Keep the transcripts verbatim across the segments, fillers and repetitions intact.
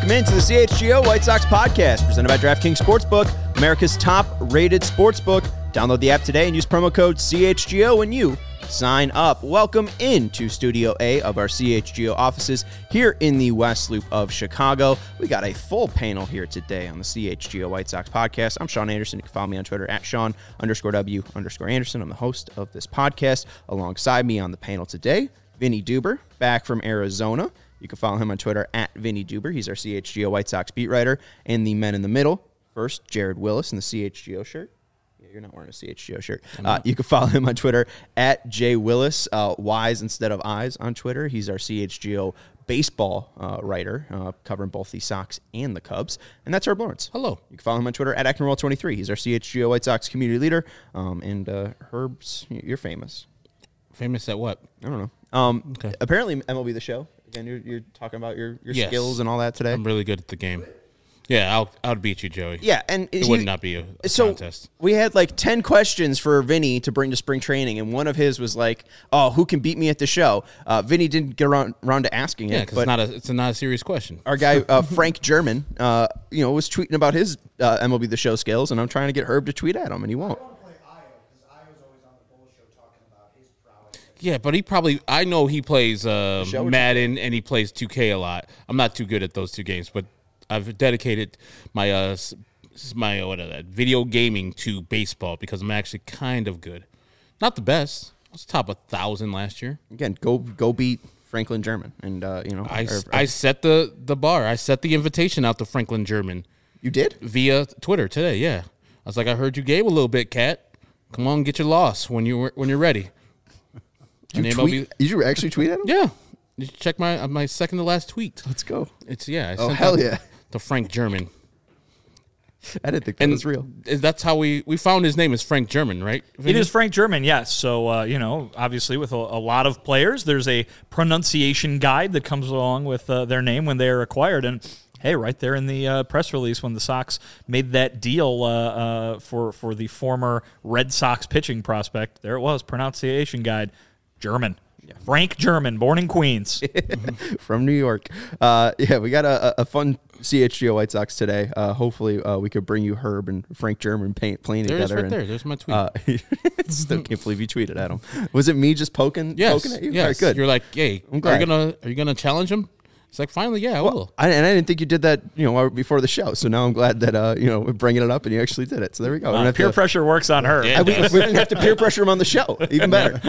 Welcome into the C H G O White Sox podcast, presented by DraftKings Sportsbook, America's top-rated sportsbook. Download the app today and use promo code C H G O when you sign up. Welcome into Studio A of our C H G O offices here in the West Loop of Chicago. We got a full panel here today on the C H G O White Sox podcast. I'm Sean Anderson. You can follow me on Twitter at Sean underscore W underscore Anderson. I'm the host of this podcast. Alongside me on the panel today, Vinny Duber, back from Arizona. You can follow him on Twitter at Vinny Duber. He's our C H G O White Sox beat writer and the men in the middle. First, Jared Willis in the C H G O shirt. Yeah, you're not wearing a C H G O shirt. Uh, you can follow him on Twitter at J Willis, uh, Y's instead of I's on Twitter. He's our C H G O baseball uh, writer, uh, covering both the Sox and the Cubs. And that's Herb Lawrence. Hello. You can follow him on Twitter at Acton World twenty-three. He's our C H G O White Sox community leader. Um, and uh, Herb's, you're famous. Famous at what? I don't know. Um, Okay. Apparently, M L B The Show. Again, you're, you're talking about your, your Yes. skills and all that today. I'm really good at the game. Yeah, I'll I'll beat you, Joey. Yeah, and It he- would not be a, a so contest. we had like ten questions for Vinny to bring to spring training, and one of his was like, "Oh, who can beat me at the show?" Uh, Vinny didn't get around, around to asking Yeah, it, because but it's not a it's a not a serious question. our guy uh, Frank German, uh, you know, was tweeting about his uh, M L B The Show skills, and I'm trying to get Herb to tweet at him, and he won't. Yeah, but he probably I know he plays uh, show or Madden and he plays two K a lot. I'm not too good at those two games, but I've dedicated my uh s- my uh, what are that video gaming to baseball because I'm actually kind of good. Not the best. I was top a thousand last year. Again, go go beat Franklin German, and uh, you know, I, or- I set the, the bar. I set the invitation out to Franklin German you did. via Twitter today. Yeah, I was like, I heard you gave a little bit, Cat. Come on, get your loss when you when you're ready. Did you, And M L B tweet, did you actually tweet at him? Yeah, you should check my uh, my second to last tweet. Let's go. It's yeah. I Oh, sent hell that yeah. To Frank German. I didn't think that And was real. That's how we we found his name is Frank German, right? It is Frank German, yes. So, uh, you know, obviously with a, a lot of players, there's a pronunciation guide that comes along with uh, their name when they are acquired. And, hey, right there in the uh, press release when the Sox made that deal uh, uh, for, for the former Red Sox pitching prospect, there it was, pronunciation guide, German. Frank German, born in Queens. From New York. Uh, yeah, we got a, a fun C H G O White Sox today. Uh, hopefully, uh, we could bring you Herb and Frank German pain, playing There it is together. right and, there. There's my tweet. Uh, still can't believe you tweeted at him. Was it me just poking, yes, poking at you? yes. All right, good. You're like, hey, I'm are glad. you gonna are you gonna challenge him? It's like, finally, yeah, I will. I, and I didn't think you did that, you know, before the show. So now I'm glad that, uh, you know, we're bringing it up and you actually did it. So there we go. We don't Uh, have peer to- pressure works on her. Yeah. I- we, we didn't have to peer pressure him on the show. Even better.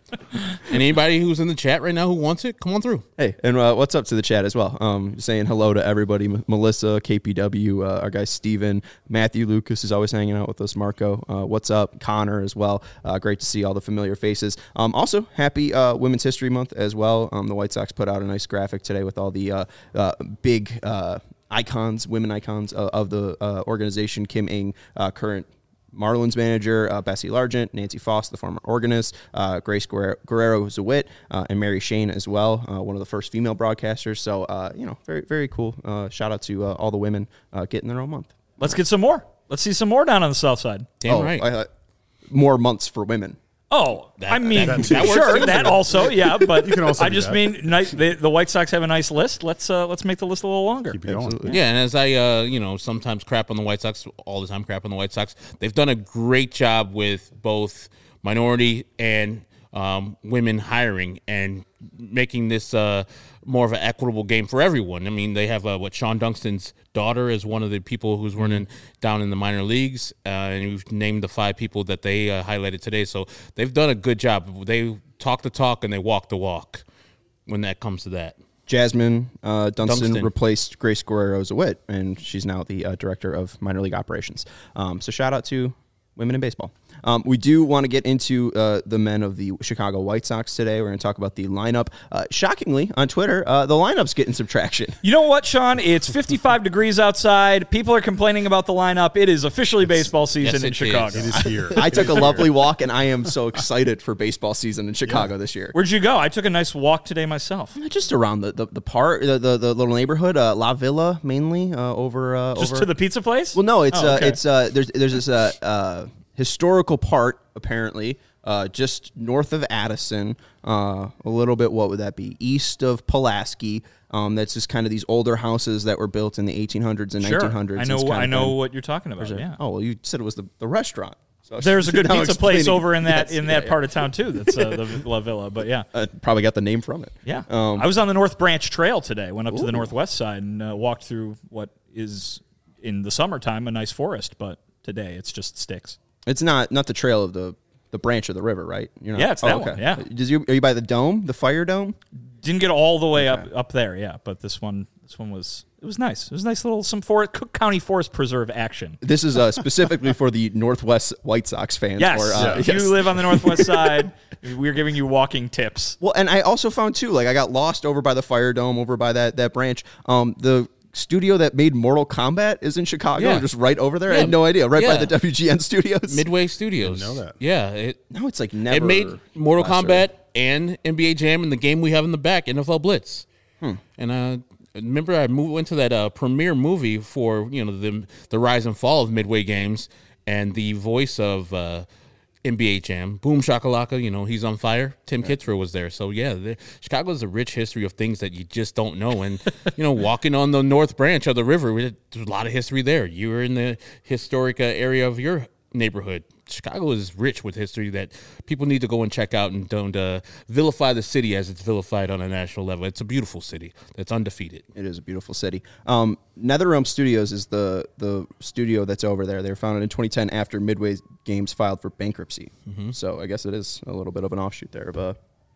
And anybody who's in the chat right now who wants it, come on through. Hey, and uh, what's up to the chat as well? Um, saying hello to everybody. M- Melissa, K P W, uh, our guy Steven, Matthew Lucas is always hanging out with us. Marco, uh, what's up? Connor as well. Uh, great to see all the familiar faces. Um, also, happy uh, Women's History Month as well. Um, the White Sox put out a nice graphic today with all the uh, uh, big uh, icons, women icons uh, of the uh, organization. Kim Ng, uh, current Marlins manager, uh, Bessie Largent, Nancy Foss, the former organist, uh, Grace Guerrero, Guerrero-Zawit, uh, and Mary Shane as well, uh, one of the first female broadcasters. So, uh, you know, very, very cool. Uh, shout out to uh, all the women uh, getting their own month. Let's get some more. Let's see some more down on the south side. Damn oh, right. I, uh, more months for women. Oh, That- I mean, that- that works sure, too. that also, yeah, but You can also I do just that. mean nice, the, the White Sox have a nice list. Let's uh, let's make the list a little longer. Keep it going. Absolutely. Yeah, and as I, uh, you know, sometimes crap on the White Sox, all the time crap on the White Sox, they've done a great job with both minority and um, women hiring and making this uh, more of an equitable game for everyone. I mean, they have uh, what Sean Dunston's daughter is one of the people who's running down in the minor leagues, uh, and we've named the five people that they uh, highlighted today. So they've done a good job. They talk the talk and they walk the walk when that comes to that. Jasmine uh, Dunston, Dunston. replaced Grace Guerrero-Zawit, and she's now the uh, director of minor league operations. Um, so shout out to women in baseball. Um, we do want to get into uh, the men of the Chicago White Sox today. We're going to talk about the lineup. Uh, shockingly, on Twitter, uh, the lineup's getting some traction. You know what, Sean? It's fifty-five degrees outside. People are complaining about the lineup. It is officially baseball season yes, in it Chicago. is. It is here. I took a lovely walk, and I am so excited for baseball season in Chicago this year. Where'd you go? I took a nice walk today myself. Just around the the, the part, the, the the little neighborhood, uh, La Villa mainly, uh, over uh, Just over. to the pizza place? Well, no, it's Oh, uh, okay. it's uh, there's there's this uh, uh, historical part apparently uh, just north of Addison, uh, a little bit, what would that be, east of Pulaski. Um, that's just kind of these older houses that were built in the eighteen hundreds and sure. nineteen hundreds. I know, I know been, what you're talking about, yeah. Oh, well, you said it was the, the restaurant. So There's a good pizza place over in that yes, in yeah, that yeah. part of town, too. That's uh, the La Villa, but yeah. Uh, probably got the name from it. Yeah. Um, I was on the North Branch Trail today, went up ooh. to the northwest side and uh, walked through what is, in the summertime, a nice forest, but today it's just sticks. It's not not the trail of the, the branch of the river, right? You're not, Yeah, it's that oh, okay. one, yeah. Does you, are you by the dome, the fire dome? Didn't get all the way Okay. up up there, yeah, but this one this one was it was nice. It was nice little some forest, Cook County Forest Preserve action. This is uh, specifically for the Northwest White Sox fans. Yes, or, uh, if yes. you live on the northwest side, we're giving you walking tips. Well, and I also found too, like I got lost over by the Fire Dome, over by that that branch. Um, the studio that made Mortal Kombat is in Chicago, Yeah. just right over there. Yeah. I had no idea, right by Yeah. the W G N studios. Midway Studios. Didn't know that. Yeah, it no, it's like never. it made Mortal last Kombat year. and N B A Jam and the game we have in the back, N F L Blitz. Hmm. And uh, remember, I moved, went to that uh, premiere movie for you know the the rise and fall of Midway games, and the voice of uh, N B A Jam, Boom Shakalaka, you know, he's on fire. Tim yeah. Kitzrow was there. So, yeah, the, Chicago has a rich history of things that you just don't know. And, you know, walking on the North Branch of the river, there's a lot of history there. You were in the historic uh, area of your neighborhood. Chicago is rich with history that people need to go and check out and don't uh, vilify the city as it's vilified on a national level. It's a beautiful city that's undefeated. It is a beautiful city. Um, NetherRealm Studios is the the studio that's over there. They were founded in twenty ten after Midway Games filed for bankruptcy. Mm-hmm. So I guess it is a little bit of an offshoot there of uh,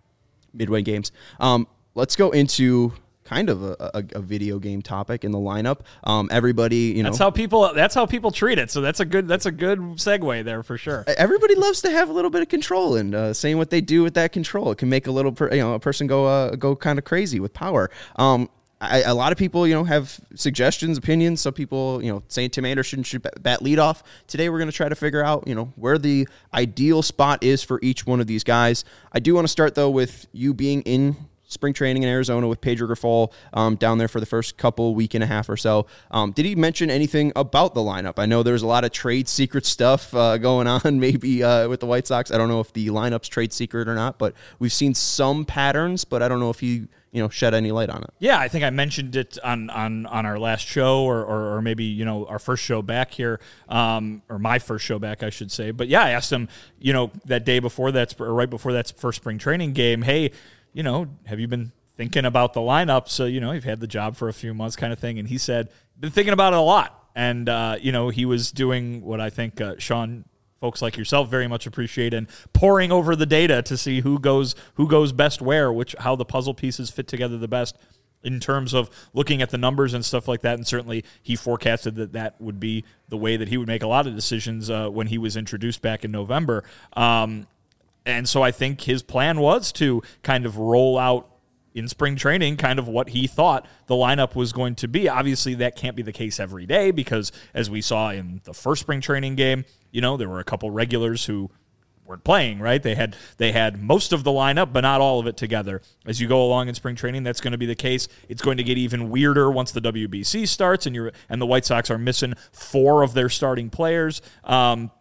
Midway Games. Um, let's go into kind of a, a, a video game topic in the lineup. Um, everybody, you know, That's how people that's how people treat it. So that's a good that's a good segue there for sure. everybody loves to have a little bit of control, and uh, saying what they do with that control, it can make a little, per, you know, a person go uh, go kind of crazy with power. Um, I, a lot of people, you know, have suggestions, opinions. Some people, you know, saying Tim Anderson should bat leadoff. Today, we're going to try to figure out, you know, where the ideal spot is for each one of these guys. I do want to start though with you being in spring training in Arizona with Pedro Grifol um, down there for the first couple week and a half or so. Um, did he mention anything about the lineup? I know there's a lot of trade secret stuff uh, going on maybe uh, with the White Sox. I don't know if the lineup's trade secret or not, but we've seen some patterns, but I don't know if he, you know, shed any light on it. Yeah, I think I mentioned it on on, on our last show or, or or maybe, you know, our first show back here, um, or my first show back, I should say. But yeah, I asked him, you know, that day before that, or right before that first spring training game, hey, you know, have you been thinking about the lineup? So, you know, you've had the job for a few months kind of thing. And he said, been thinking about it a lot. And, uh, you know, he was doing what I think uh, Sean, folks like yourself very much appreciate, and poring over the data to see who goes who goes best where, which how the puzzle pieces fit together the best in terms of looking at the numbers and stuff like that. And certainly he forecasted that that would be the way that he would make a lot of decisions uh, when he was introduced back in November. Um And so I think his plan was to kind of roll out in spring training kind of what he thought the lineup was going to be. Obviously, that can't be the case every day because, as we saw in the first spring training game, you know, there were a couple regulars who weren't playing, right? They had they had most of the lineup, but not all of it together. As you go along in spring training, that's going to be the case. It's going to get even weirder once the W B C starts, and you're and the White Sox are missing four of their starting players. Um,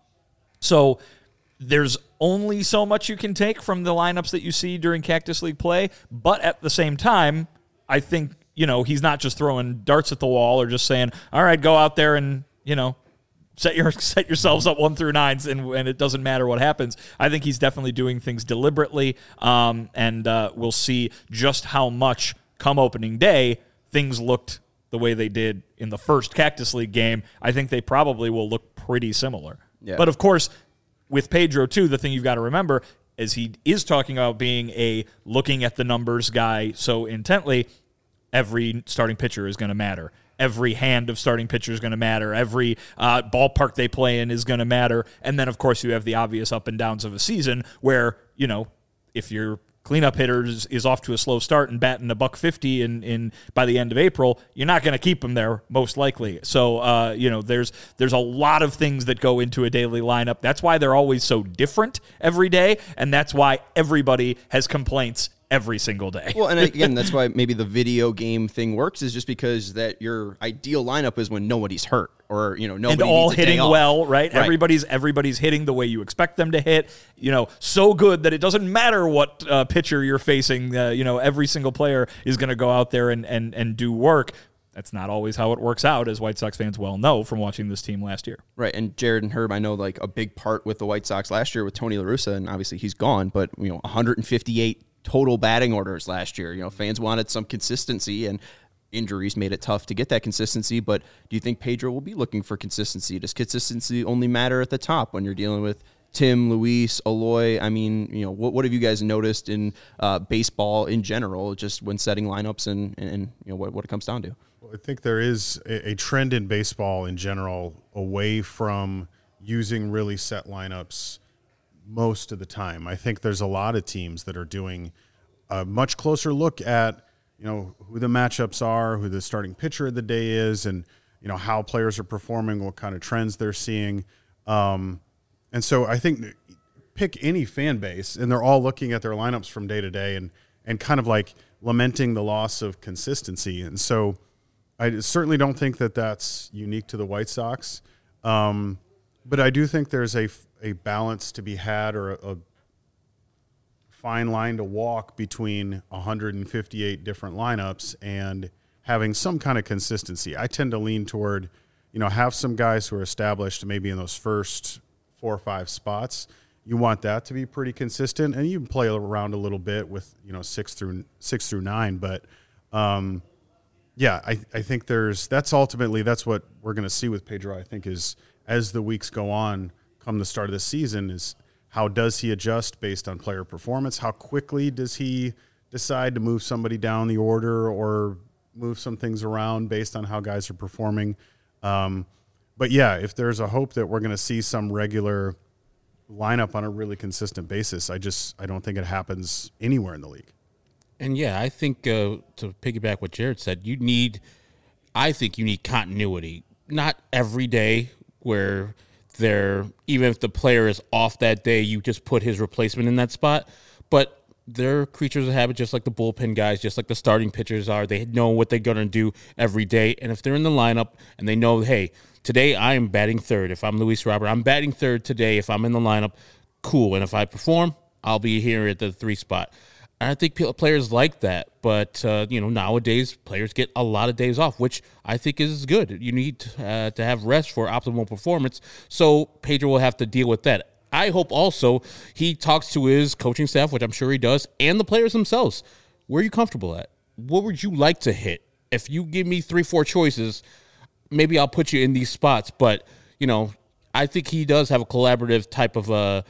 so there's only so much you can take from the lineups that you see during Cactus League play, but at the same time, I think, you know, he's not just throwing darts at the wall or just saying, all right, go out there and, you know, set your set yourselves up one through nines and, and it doesn't matter what happens. I think he's definitely doing things deliberately, um, and uh, we'll see just how much come opening day things looked the way they did in the first Cactus League game. I think they probably will look pretty similar. Yeah. But of course, with Pedro, too, the thing you've got to remember is he is talking about being a looking at the numbers guy so intently, every starting pitcher is going to matter. Every hand of starting pitcher is going to matter. Every uh, ballpark they play in is going to matter. And then, of course, you have the obvious up and downs of a season where, you know, if your cleanup hitter is, is off to a slow start and batting a buck fifty in, in by the end of April, you're not going to keep him there most likely. So, uh, you know, there's there's a lot of things that go into a daily lineup. That's why they're always so different every day, and that's why everybody has complaints every single day. Well, and again, that's why maybe the video game thing works, is just because that your ideal lineup is when nobody's hurt, or, you know, nobody and all needs a day hitting off. well, right? Right. Everybody's everybody's hitting the way you expect them to hit. You know, so good that it doesn't matter what uh, pitcher you're facing. Uh, you know, every single player is going to go out there and, and and do work. That's not always how it works out, as White Sox fans well know from watching this team last year. Right, and Jared and Herb, I know, like, a big part with the White Sox last year with Tony La Russa, and obviously he's gone, but, you know, one hundred fifty-eight total batting orders last year. You know, fans wanted some consistency, and injuries made it tough to get that consistency. But do you think Pedro will be looking for consistency? Does consistency only matter at the top when you're dealing with Tim, Luis, Eloy? I mean, you know, what what have you guys noticed in uh, baseball in general, just when setting lineups and, and you know, what, what it comes down to? Well, I think there is a, a trend in baseball in general away from using really set lineups most of the time. I think there's a lot of teams that are doing a much closer look at, you know, who the matchups are, who the starting pitcher of the day is, and, you know, how players are performing, what kind of trends they're seeing. Um, and so I think pick any fan base, and they're all looking at their lineups from day to day and, and kind of like lamenting the loss of consistency. And so I certainly don't think that that's unique to the White Sox. Um, but I do think there's a, a balance to be had, or a, a fine line to walk between one hundred fifty-eight different lineups and having some kind of consistency. I tend to lean toward, you know, have some guys who are established maybe in those first four or five spots. You want that to be pretty consistent, and you can play around a little bit with, you know, six through six through nine. But, um, yeah, I, I think there's that's ultimately that's what we're going to see with Pedro. I think is as the weeks go on, come the start of the season, is how does he adjust based on player performance? How quickly does he decide to move somebody down the order or move some things around based on how guys are performing? Um, but yeah, if there's a hope that we're going to see some regular lineup on a really consistent basis, I just I don't think it happens anywhere in the league. And yeah, I think uh, to piggyback what Jared said, you need, I think you need continuity. Not every day where they're, even if the player is off that day, you just put his replacement in that spot. But they're creatures of habit, just like the bullpen guys, just like the starting pitchers are. They know what they're going to do every day. And if they're in the lineup and they know, hey, today I am batting third. If I'm Luis Robert, I'm batting third today. If I'm in the lineup, cool. And if I perform, I'll be here at the three spot. And I think players like that, but uh, you know, nowadays players get a lot of days off, which I think is good. You need uh, to have rest for optimal performance. So Pedro will have to deal with that. I hope also he talks to his coaching staff, which I'm sure he does, and the players themselves. Where are you comfortable at? What would you like to hit? If you give me three, four choices, maybe I'll put you in these spots. But you know, I think he does have a collaborative type of a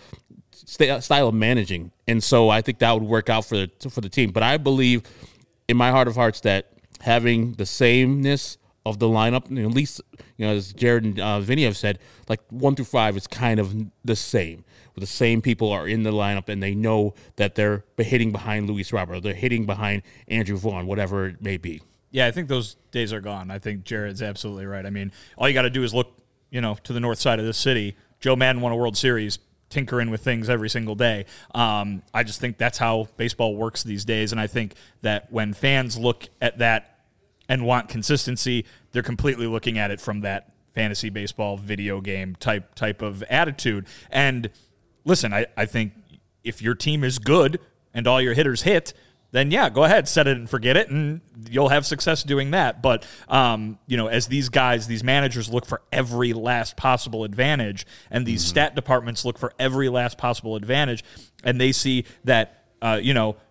uh, style of managing. And so I think that would work out for the for the team. But I believe in my heart of hearts that having the sameness of the lineup, you know, at least, you know, as Jared and uh, Vinny have said, like one through five is kind of the same. The same people are in the lineup, and they know that they're hitting behind Luis Robert, they're hitting behind Andrew Vaughn, whatever it may be. Yeah, I think those days are gone. I think Jared's absolutely right. I mean, all you got to do is look, you know, to the north side of this city. Joe Madden won a World Series, tinkering with things every single day. Um, I just think that's how baseball works these days, and I think that when fans look at that and want consistency, they're completely looking at it from that fantasy baseball video game type type of attitude. And listen, I, I think if your team is good and all your hitters hit, then yeah, go ahead, set it and forget it, and you'll have success doing that. But, um, you know, as these guys, these managers look for every last possible advantage, and these mm-hmm. stat departments look for every last possible advantage, and they see that, uh, you know,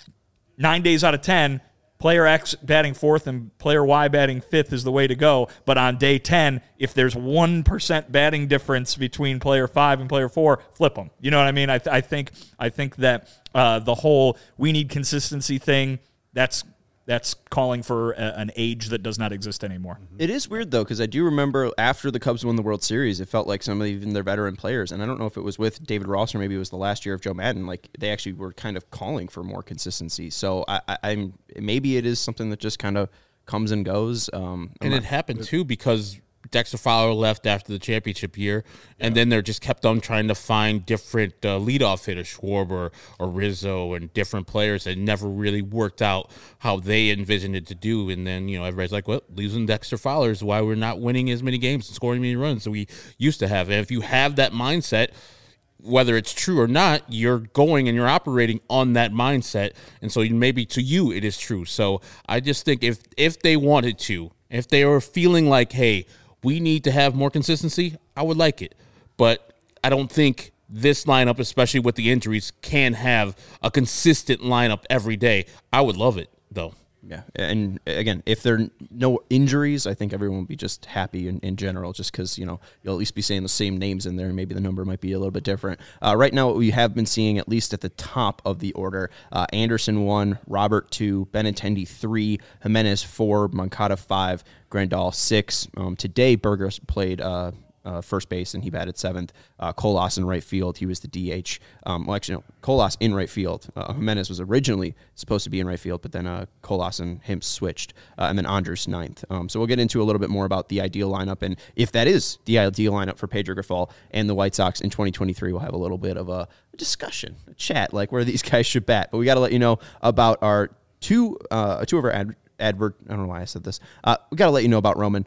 nine days out of ten, player X batting fourth and player Y batting fifth is the way to go. But on day ten, if there's one percent batting difference between player five and player four, flip them. You know what I mean? I, th- I think I think that uh, the whole we need consistency thing, that's that's calling for a, an age that does not exist anymore. It is weird, though, because I do remember after the Cubs won the World Series, it felt like some of even their veteran players, and I don't know if it was with David Ross or maybe it was the last year of Joe Madden, like they actually were kind of calling for more consistency. So I, I, I'm maybe it is something that just kind of comes and goes. Um, and not, it happened, too, because Dexter Fowler left after the championship year, and yeah. then they're just kept on trying to find different uh, leadoff hitters, Schwarber or Rizzo, and different players that never really worked out how they envisioned it to do. And then, you know, everybody's like, well, losing Dexter Fowler is why we're not winning as many games and scoring many runs as we used to have. And if you have that mindset, whether it's true or not, you're going and you're operating on that mindset. And so maybe to you it is true. So I just think if if they wanted to, if they were feeling like, hey, we need to have more consistency, I would like it. But I don't think this lineup, especially with the injuries, can have a consistent lineup every day. I would love it, though. Yeah, and again, if there are no injuries, I think everyone will be just happy in, in general, just because, you know, you'll at least be saying the same names in there, and maybe the number might be a little bit different. Uh, right now, what we have been seeing, at least at the top of the order, uh, Anderson one, Robert two, Benintendi three, Jimenez four, Moncada five, Grandal six. Um, today, Burgos played uh, uh, first base, and he batted seventh. Uh, Colas in right field. He was the D H. Um, well, actually, no, Colas in right field. Uh, Jimenez was originally supposed to be in right field, but then uh, Colas and him switched, uh, and then Andres ninth. Um, so we'll get into a little bit more about the ideal lineup, and if that is the ideal lineup for Pedro Grifol and the White Sox in twenty twenty-three, we'll have a little bit of a discussion, a chat, like where these guys should bat. But we got to let you know about our two, uh, two of our ad- advert. I don't know why I said this. Uh, we got to let you know about Roman.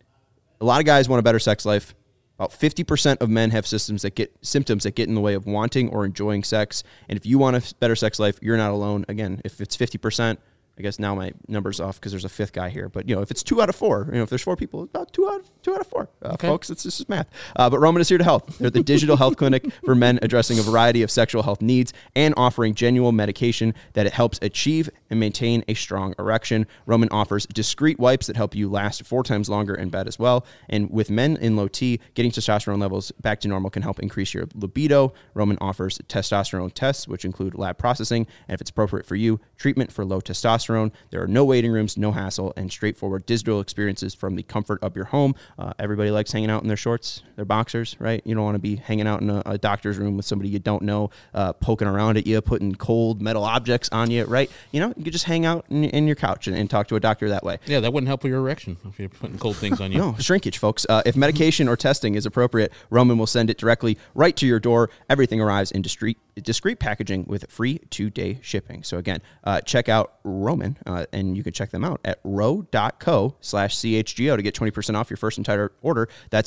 A lot of guys want a better sex life. About fifty percent of men have systems that get symptoms that get in the way of wanting or enjoying sex. And if you want a better sex life, you're not alone. Again, if it's fifty percent, I guess now my number's off because there's a fifth guy here. But, you know, if it's two out of four, you know, if there's four people, about two out of, two out of four. Uh, okay. Folks, it's this is math. Uh, but Roman is here to help. They're the digital health clinic for men, addressing a variety of sexual health needs and offering genuine medication that it helps achieve and maintain a strong erection. Roman offers discreet wipes that help you last four times longer in bed as well. And with men in low T, getting testosterone levels back to normal can help increase your libido. Roman offers testosterone tests, which include lab processing, and if it's appropriate for you, treatment for low testosterone. There are no waiting rooms, no hassle, and straightforward digital experiences from the comfort of your home. Uh, everybody likes hanging out in their shorts, their boxers, right? You don't want to be hanging out in a, a doctor's room with somebody you don't know, uh, poking around at you, putting cold metal objects on you, right? You know, you could just hang out in, in your couch and, and talk to a doctor that way. Yeah, that wouldn't help with your erection if you're putting cold things on you. No, shrinkage, folks. Uh, if medication or testing is appropriate, Roman will send it directly right to your door. Everything arrives in discreet, discreet packaging with free two-day shipping. So again, uh, check out Roman. Uh, and you can check them out at row.co slash CHGO to get twenty percent off your first entire order. That's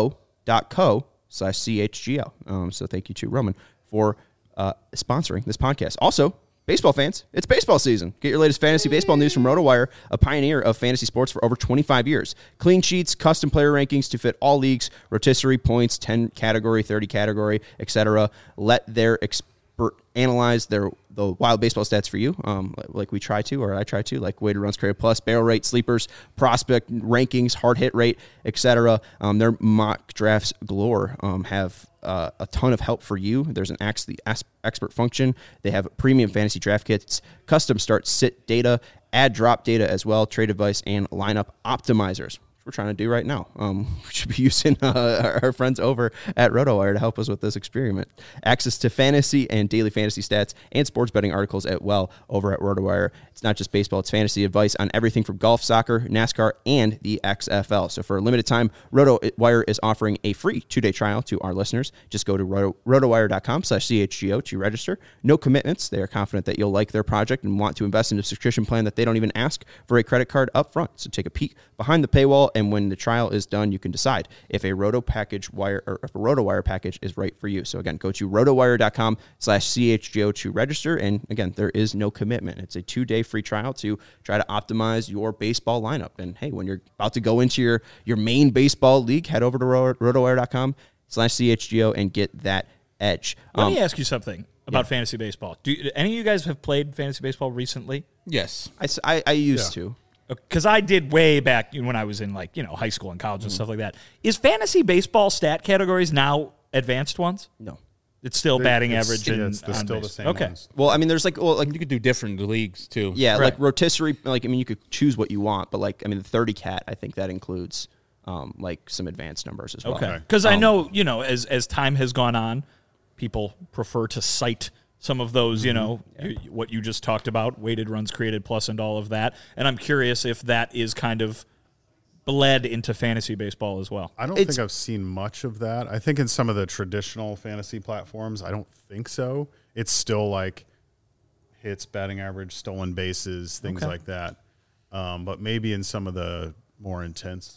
row.co slash CHGO. Um, so thank you to Roman for uh, sponsoring this podcast. Also, baseball fans, it's baseball season. Get your latest fantasy baseball news from RotoWire, a pioneer of fantasy sports for over twenty-five years. Clean sheets, custom player rankings to fit all leagues, rotisserie points, ten category, thirty category, et cetera. Let their expert analyze their the wild baseball stats for you, um, like we try to, or I try to, like weighted runs created plus, barrel rate, sleepers, prospect rankings, hard hit rate, et cetera. Um, their mock drafts galore um, have uh, a ton of help for you. There's an ask the expert function. They have premium fantasy draft kits, custom start sit data, add drop data as well, trade advice, and lineup optimizers. We're trying to do right now. Um, we should be using uh, our friends over at RotoWire to help us with this experiment. Access to fantasy and daily fantasy stats and sports betting articles as well over at RotoWire. It's not just baseball, it's fantasy advice on everything from golf, soccer, NASCAR, and the X F L. So for a limited time, RotoWire is offering a free two-day trial to our listeners. Just go to roto, rotowire.com slash CHGO to register. No commitments. They are confident that you'll like their project and want to invest in a subscription plan that they don't even ask for a credit card up front. So take a peek behind the paywall, and when the trial is done, you can decide if a Roto package wire or if a RotoWire package is right for you. So again, go to rotowire.com slash CHGO to register. And again, there is no commitment. It's a two-day free trial to try to optimize your baseball lineup. And hey, when you're about to go into your, your main baseball league, head over to rotowire.com slash CHGO and get that edge. Let um, me ask you something about yeah. fantasy baseball. Do, do any of you guys have played fantasy baseball recently? Yes. I, I, I used yeah. to. Because I did way back when I was in, like, you know, high school and college and mm. stuff like that. Is fantasy baseball stat categories now advanced ones? No. It's still they, batting it's, average yeah, and it's the, still base. the same okay. ones. Well, I mean, there's like, well, like you could do different leagues too. Yeah, right. like rotisserie. Like, I mean, you could choose what you want, but like, I mean, the thirty cat, I think that includes um, like some advanced numbers as well. Okay. Because um, I know, you know, as as time has gone on, people prefer to cite some of those, you know, yeah. you, what you just talked about, weighted runs created plus and all of that. And I'm curious if that is kind of bled into fantasy baseball as well. I don't It's- think I've seen much of that. I think in some of the traditional fantasy platforms, I don't think so. It's still like hits, batting average, stolen bases, things Okay. like that. Um, but maybe in some of the more intense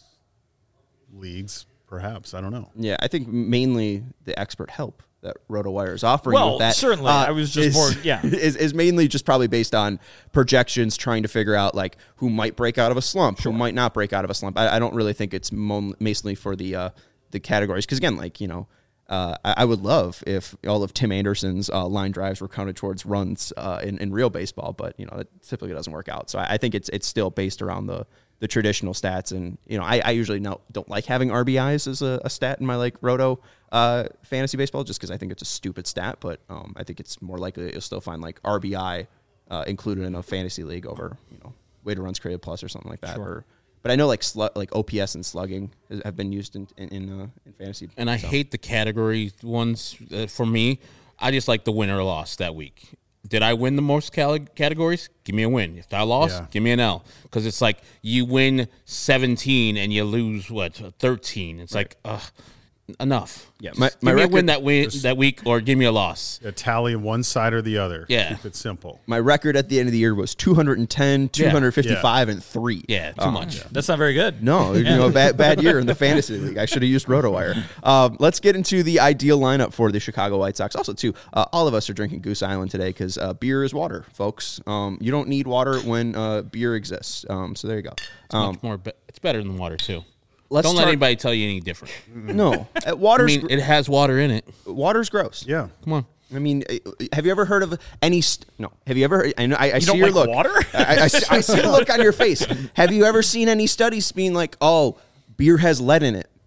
leagues, perhaps. I don't know. Yeah, I think mainly the expert help that RotoWire is offering. Well, with that, certainly. I was just is, more- yeah. is, is mainly just probably based on projections, trying to figure out like who might break out of a slump, who might not break out of a slump. I, I don't really think it's mo- mainly for the uh, the categories because again, like you know, uh, I, I would love if all of Tim Anderson's uh, line drives were counted towards runs uh, in, in real baseball, but you know, it typically doesn't work out. So I, I think it's it's still based around the. the traditional stats. And, you know, I, I usually not, don't like having R B Is as a, a stat in my like roto uh, fantasy baseball, just because I think it's a stupid stat, but um, I think it's more likely that you'll still find like R B I uh, included in a fantasy league over, you know, weighted runs created plus or something like that. Sure. Or, but I know like slu- like O P S and slugging has- have been used in in, in, uh, in fantasy. And I so. hate the category ones. Uh, for me, I just like the win or loss that week. Did I win the most cal- categories? Give me a win. If I lost, Yeah. give me an L. Because it's like you win seventeen and you lose, what, thirteen. It's like, ugh, enough. Yeah, Just my- give my me a record- win that, win, that week or give me a loss. A tally one side or the other. Yeah. Keep it simple. My record at the end of the year was two hundred ten, two hundred fifty-five, and three. Yeah, too Um, much. That's not very good. No, you know, bad bad year in the fantasy league. I should have used RotoWire. Um, let's get into the ideal lineup for the Chicago White Sox. Also, too, uh, all of us are drinking Goose Island today because uh, beer is water, folks. Um, you don't need water when uh, beer exists. Um, so there you go. It's Um, much more. Be- it's better than water too. let's Don't let talk- anybody tell you any different. No, uh, I water's mean, it has water in it. water's gross. Yeah. Come on. I mean, uh, have you ever heard of any? St- no. Have you ever? I know. I, I see don't your like look. water? I, I, see, I see the look on your face. Have you ever seen any studies being like, "Oh, beer has lead in it"?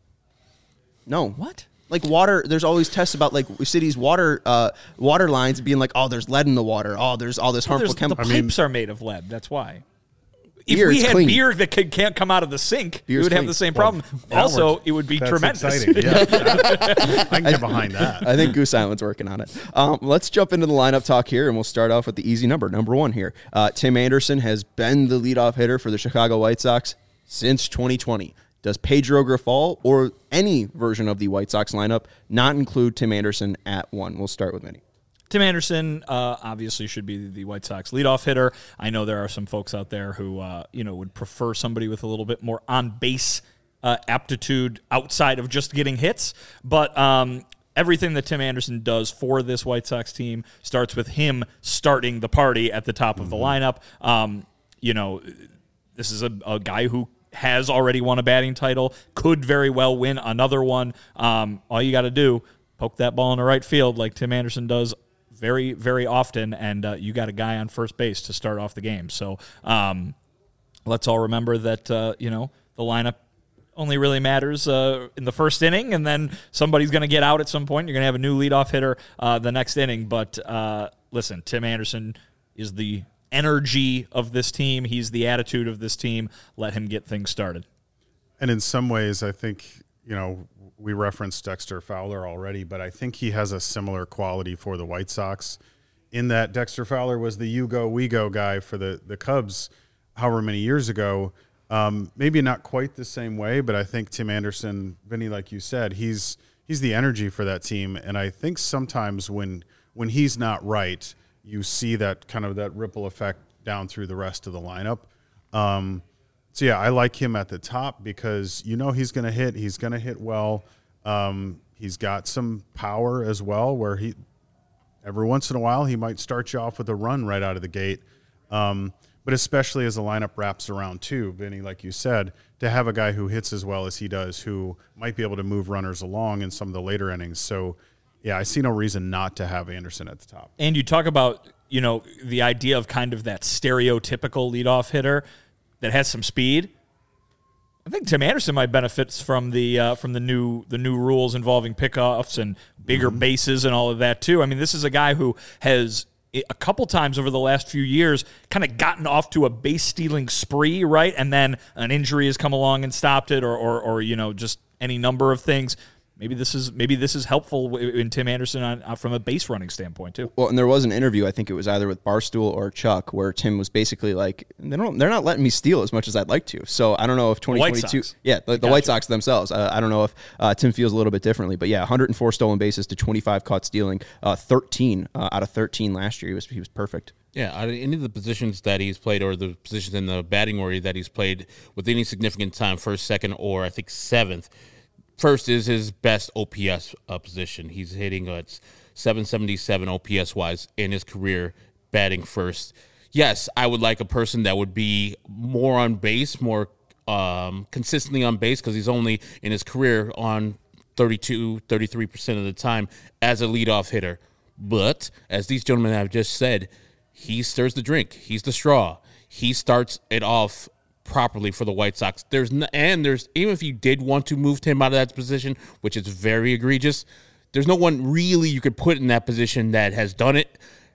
No. What? Like water, there's always tests about like cities' water uh, water lines being like, "Oh, there's lead in the water. Oh, there's all this harmful There's- the chemical." pipes are made of lead. That's why. If Beer we is had clean. beer that could, can't come out of the sink, Beer's we would have clean. the same Well, problem. now also, we're- it would be That's tremendous. exciting. Yeah. I can get behind that. I think Goose Island's working on it. Um, let's jump into the lineup talk here, and we'll start off with the easy number, number one here. Uh, Tim Anderson has been the leadoff hitter for the Chicago White Sox since twenty twenty. Does Pedro Grifol or any version of the White Sox lineup not include Tim Anderson at one? We'll start with Vinny. Tim Anderson uh, obviously should be the White Sox leadoff hitter. I know there are some folks out there who uh, you know would prefer somebody with a little bit more on base uh, aptitude outside of just getting hits, but um, everything that Tim Anderson does for this White Sox team starts with him starting the party at the top of the lineup. Um, you know, this is a, a guy who has already won a batting title, could very well win another one. Um, all you got to do, poke that ball in the right field like Tim Anderson does very, very often, and uh, you got a guy on first base to start off the game. So um, let's all remember that, uh, you know, the lineup only really matters uh, in the first inning, and then somebody's going to get out at some point. You're going to have a new leadoff hitter uh, the next inning. But uh, listen, Tim Anderson is the energy of this team. He's the attitude of this team. Let him get things started. And in some ways, I think, you know, we referenced Dexter Fowler already, but I think he has a similar quality for the White Sox in that Dexter Fowler was the you go, we go guy for the, the Cubs however many years ago. Um, maybe not quite the same way, but I think Tim Anderson, Vinny, like you said, he's he's the energy for that team. And I think sometimes when when he's not right, you see that kind of that ripple effect down through the rest of the lineup. Um, so, yeah, I like him at the top because you know he's going to hit. He's going to hit well. Um, he's got some power as well where he every once in a while he might start you off with a run right out of the gate. Um, but especially as the lineup wraps around too, Vinny, like you said, to have a guy who hits as well as he does who might be able to move runners along in some of the later innings. So, yeah, I see no reason not to have Anderson at the top. And you talk about, you know, the idea of kind of that stereotypical leadoff hitter that has some speed. I think Tim Anderson might benefit from the uh, from the new the new rules involving pickoffs and bigger mm-hmm. bases and all of that too. I mean, this is a guy who has a couple times over the last few years kind of gotten off to a base stealing spree, right? And then an injury has come along and stopped it, or or, or you know, just any number of things. maybe this is maybe this is helpful in Tim Anderson on, uh, from a base running standpoint too. Well, and there was an interview, I think it was either with Barstool or Chuck, where Tim was basically like, they don't, they're not letting me steal as much as I'd like to. So I don't know if twenty twenty-two, yeah, the, the White Sox themselves. Uh, I don't know if uh, Tim feels a little bit differently, but yeah, one hundred four stolen bases to twenty-five caught stealing, uh, thirteen uh, out of thirteen last year. He was he was perfect. Yeah, out of any of the positions that he's played, or the positions in the batting order that he's played with any significant time, first, second, or I think seventh. First is his best O P S uh, position. He's hitting uh, seven seventy-seven O P S wise in his career, batting first. Yes, I would like a person that would be more on base, more um, consistently on base, because he's only in his career on thirty-two, thirty-three percent of the time as a leadoff hitter. But as these gentlemen have just said, he stirs the drink. He's the straw. He starts it off properly for the White Sox. There's no, and there's even if you did want to move him out of that position, which is very egregious, there's no one really you could put in that position that has done it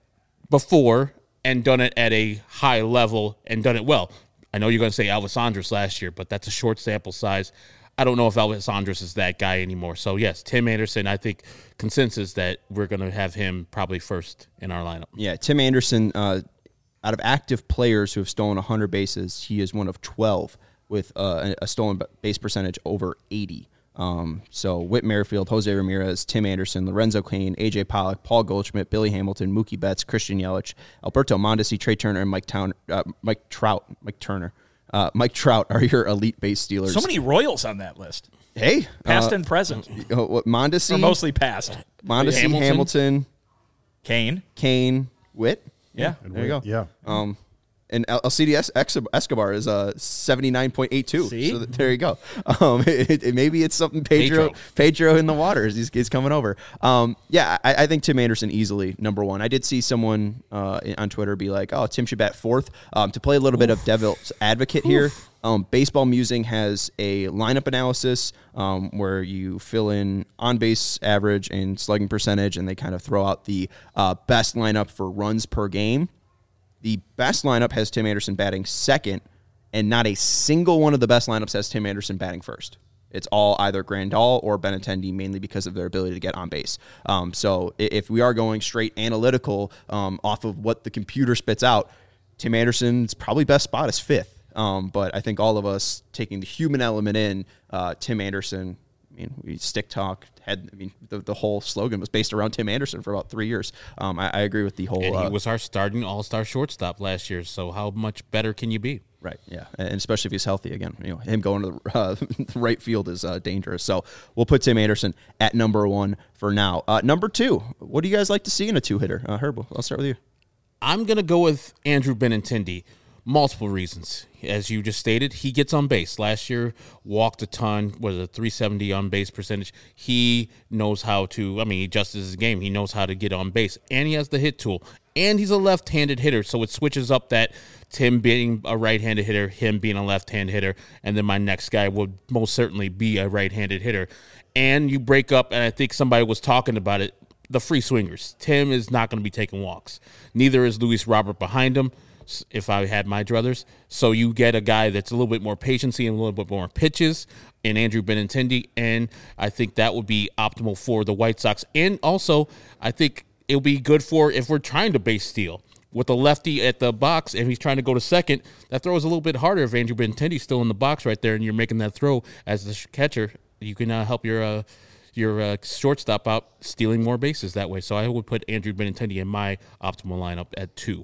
before and done it at a high level and done it well. I know you're going to say Elvis Andrus last year, but that's a short sample size. I don't know if Elvis Andrus is that guy anymore. So, yes, Tim Anderson, I think consensus that we're going to have him probably first in our lineup. Yeah, Tim Anderson, uh, out of active players who have stolen one hundred bases, he is one of twelve with uh, a stolen base percentage over eighty. Um, so Whit Merrifield, Jose Ramirez, Tim Anderson, Lorenzo Cain, A J Pollock, Paul Goldschmidt, Billy Hamilton, Mookie Betts, Christian Yelich, Alberto Mondesi, Trey Turner, and Mike, Town, uh, Mike Trout. Mike Turner. Uh, Mike Trout are your elite base stealers. So many Royals on that list. Hey. Past uh, and present. Uh, what, Mondesi? Or mostly past. Mondesi, Hamilton, Hamilton Cain. Cain, Whit. Yeah. yeah. There you go. Yeah. Um, and Alcides Escobar is uh, seventy-nine point eight two. See? So there you go. Um, it, it, maybe it's something Pedro, Pedro Pedro in the waters. He's, he's coming over. Um, yeah, I, I think Tim Anderson easily number one. I did see someone uh, on Twitter be like, oh, Tim should bat fourth. Um, to play a little Oof. bit of devil's advocate Oof. here, um, Baseball Musing has a lineup analysis um, where you fill in on-base average and slugging percentage, and they kind of throw out the uh, best lineup for runs per game. The best lineup has Tim Anderson batting second, and not a single one of the best lineups has Tim Anderson batting first. It's all either Grandal or Benintendi, mainly because of their ability to get on base. Um, so if we are going straight analytical um, off of what the computer spits out, Tim Anderson's probably best spot is fifth. Um, but I think all of us taking the human element in, uh, Tim Anderson, I mean, we stick talk had. I mean, the, the whole slogan was based around Tim Anderson for about three years. Um, I, I agree with the whole. And he uh, was our starting all-star shortstop last year. So how much better can you be? Right. Yeah, and especially if he's healthy again. You know, him going to the, uh, the right field is uh, dangerous. So we'll put Tim Anderson at number one for now. Uh, number two. What do you guys like to see in a two-hitter? Uh, Herb, I'll start with you. I'm gonna go with Andrew Benintendi. Multiple reasons. As you just stated, he gets on base. Last year, walked a ton, was a three seventy on base percentage. He knows how to, I mean, he adjusts his game. He knows how to get on base. And he has the hit tool. And he's a left-handed hitter, so it switches up that Tim being a right-handed hitter, him being a left-handed hitter, and then my next guy would most certainly be a right-handed hitter. And you break up, and I think somebody was talking about it, the free swingers. Tim is not going to be taking walks. Neither is Luis Robert behind him, if I had my druthers. So you get a guy that's a little bit more patiency and a little bit more pitches in Andrew Benintendi, and I think that would be optimal for the White Sox. And also, I think it'll be good for if we're trying to base steal. With the lefty at the box, and he's trying to go to second, that throw is a little bit harder if Andrew Benintendi's still in the box right there and you're making that throw as the catcher. You can uh, help your uh, your uh, shortstop out stealing more bases that way. So I would put Andrew Benintendi in my optimal lineup at two.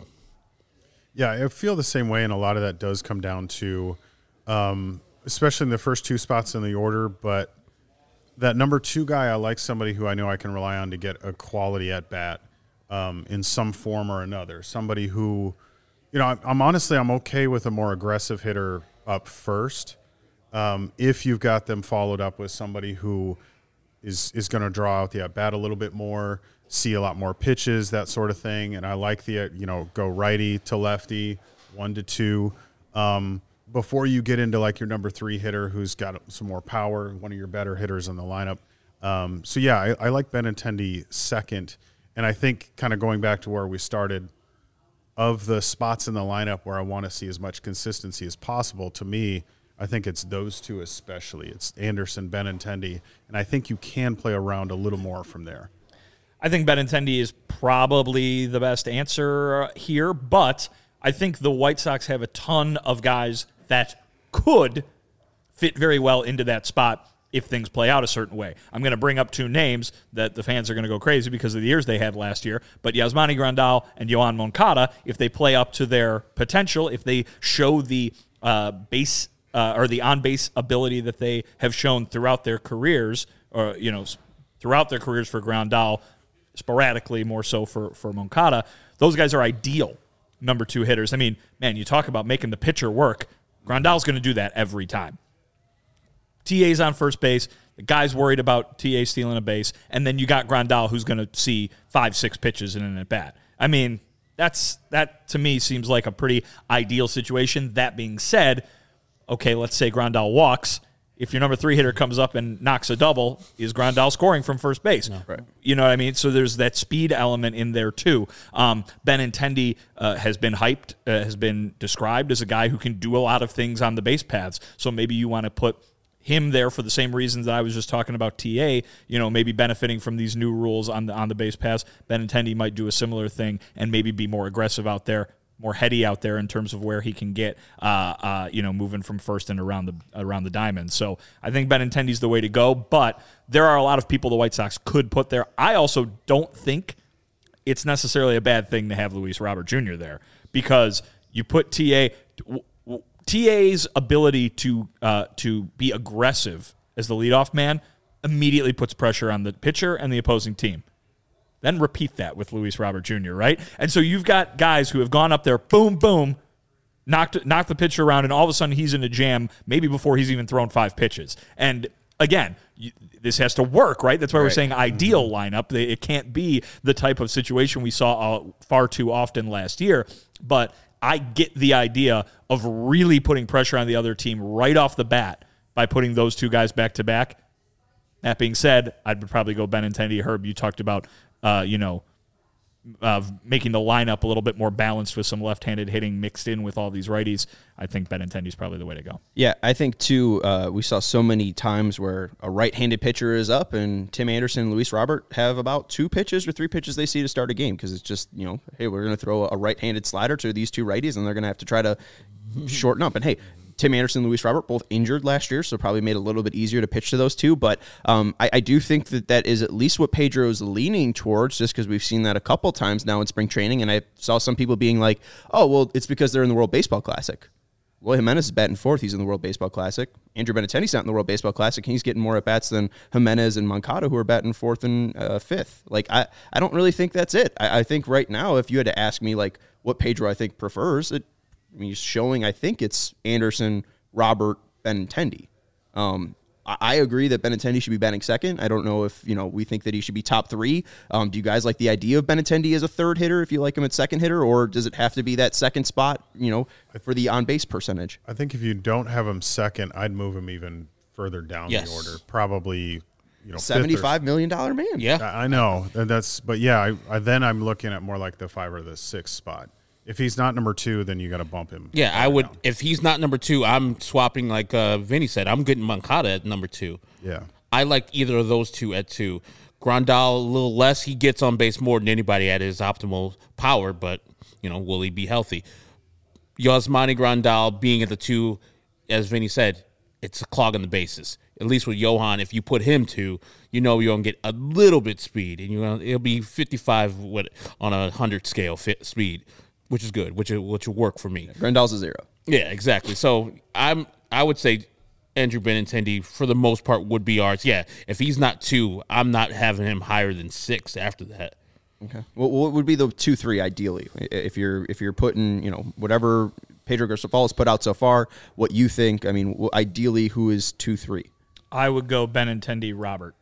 Yeah, I feel the same way, and a lot of that does come down to, um, especially in the first two spots in the order, but that number two guy, I like somebody who I know I can rely on to get a quality at-bat um, in some form or another. Somebody who, you know, I'm, I'm honestly, I'm okay with a more aggressive hitter up first um, if you've got them followed up with somebody who is, is going to draw out the at-bat a little bit more, see a lot more pitches, that sort of thing. And I like the, you know, go righty to lefty, one to two, um, before you get into like your number three hitter who's got some more power, one of your better hitters in the lineup. Um, so, yeah, I, I like Benintendi second. And I think kind of going back to where we started, of the spots in the lineup where I want to see as much consistency as possible, to me, I think it's those two especially. It's Anderson, Benintendi, and I think you can play around a little more from there. I think Benintendi is probably the best answer here, but I think the White Sox have a ton of guys that could fit very well into that spot if things play out a certain way. I'm going to bring up two names that the fans are going to go crazy because of the years they had last year, but Yasmani Grandal and Yoan Moncada, if they play up to their potential, if they show the uh, base uh, or the on-base ability that they have shown throughout their careers, or you know, throughout their careers for Grandal, sporadically more so for, for Moncada, those guys are ideal number two hitters. I mean, man, you talk about making the pitcher work. Grandal's going to do that every time. T A's on first base. The guy's worried about T A stealing a base. And then you got Grandal who's going to see five, six pitches in an at-bat. I mean, that's that to me seems like a pretty ideal situation. That being said, okay, let's say Grandal walks. If your number three hitter comes up and knocks a double, is Grandal scoring from first base? No. Right. You know what I mean? So there's that speed element in there too. Um, Benintendi uh, has been hyped, uh, has been described as a guy who can do a lot of things on the base paths. So maybe you want to put him there for the same reasons that I was just talking about T A, you know, maybe benefiting from these new rules on the on the base paths. Benintendi might do a similar thing and maybe be more aggressive out there, more heady out there in terms of where he can get, uh, uh, you know, moving from first and around the around the diamond. So I think Benintendi's the way to go, but there are a lot of people the White Sox could put there. I also don't think it's necessarily a bad thing to have Luis Robert Junior there because you put T A... T A's ability to uh, to be aggressive as the leadoff man immediately puts pressure on the pitcher and the opposing team. Then repeat that with Luis Robert Junior, right? And so you've got guys who have gone up there, boom, boom, knocked knocked the pitcher around, and all of a sudden he's in a jam maybe before he's even thrown five pitches. And again, you, this has to work, right? That's why right. we're saying ideal lineup. It can't be the type of situation we saw uh, far too often last year, but I get the idea of really putting pressure on the other team right off the bat by putting those two guys back to back. That being said, I'd probably go Benintendi. Herb, you talked about, uh, you know, uh, making the lineup a little bit more balanced with some left-handed hitting mixed in with all these righties. I think Benintendi's probably the way to go. Yeah, I think, too, uh, we saw so many times where a right-handed pitcher is up and Tim Anderson and Luis Robert have about two pitches or three pitches they see to start a game because it's just, you know, hey, we're going to throw a right-handed slider to these two righties and they're going to have to try to shorten up. And, hey, Tim Anderson and Luis Robert both injured last year, so probably made it a little bit easier to pitch to those two. But um, I, I do think that that is at least what Pedro is leaning towards, just because we've seen that a couple times now in spring training. And I saw some people being like, oh, well, it's because they're in the World Baseball Classic. Eloy Jimenez is batting fourth. He's in the World Baseball Classic. Andrew Benintendi's not in the World Baseball Classic. He's getting more at-bats than Jimenez and Moncada, who are batting fourth and uh, fifth. Like, I, I don't really think that's it. I, I think right now, if you had to ask me, like, what Pedro I think prefers, it, I mean, he's showing, I think it's Anderson, Robert, Benintendi. Um, I, I agree that Benintendi should be batting second. I don't know if, you know, we think that he should be top three. Um, do you guys like the idea of Benintendi as a third hitter if you like him at second hitter, or does it have to be that second spot, you know, for the on-base percentage? I think if you don't have him second, I'd move him even further down yes. the order. Probably, you know, seventy-five million dollars man. Yeah. I know. That's, but yeah, I, I, then I'm looking at more like the five or the six spot. If he's not number two, then you got to bump him. Yeah, I would. Down. If he's not number two, I'm swapping like uh, Vinny said. I'm getting Moncada at number two. Yeah. I like either of those two at two. Grandal, a little less. He gets on base more than anybody at his optimal power, but, you know, will he be healthy? Yasmani Grandal being at the two, as Vinny said, it's a clog on the bases. At least with Johan, if you put him to, you know you're going to get a little bit speed, and you're gonna, it'll be fifty-five what, on a one hundred scale fit speed. Which is good, which which will work for me. Yeah, Grandal's a zero. Yeah, exactly. So I'm I would say Andrew Benintendi for the most part would be ours. Yeah, if he's not two, I'm not having him higher than six after that. Okay. Well, what would be the two three ideally if you're if you're putting, you know, whatever Pedro Garcia's put out so far, what you think? I mean, ideally, who is two three? I would go Benintendi, Robert.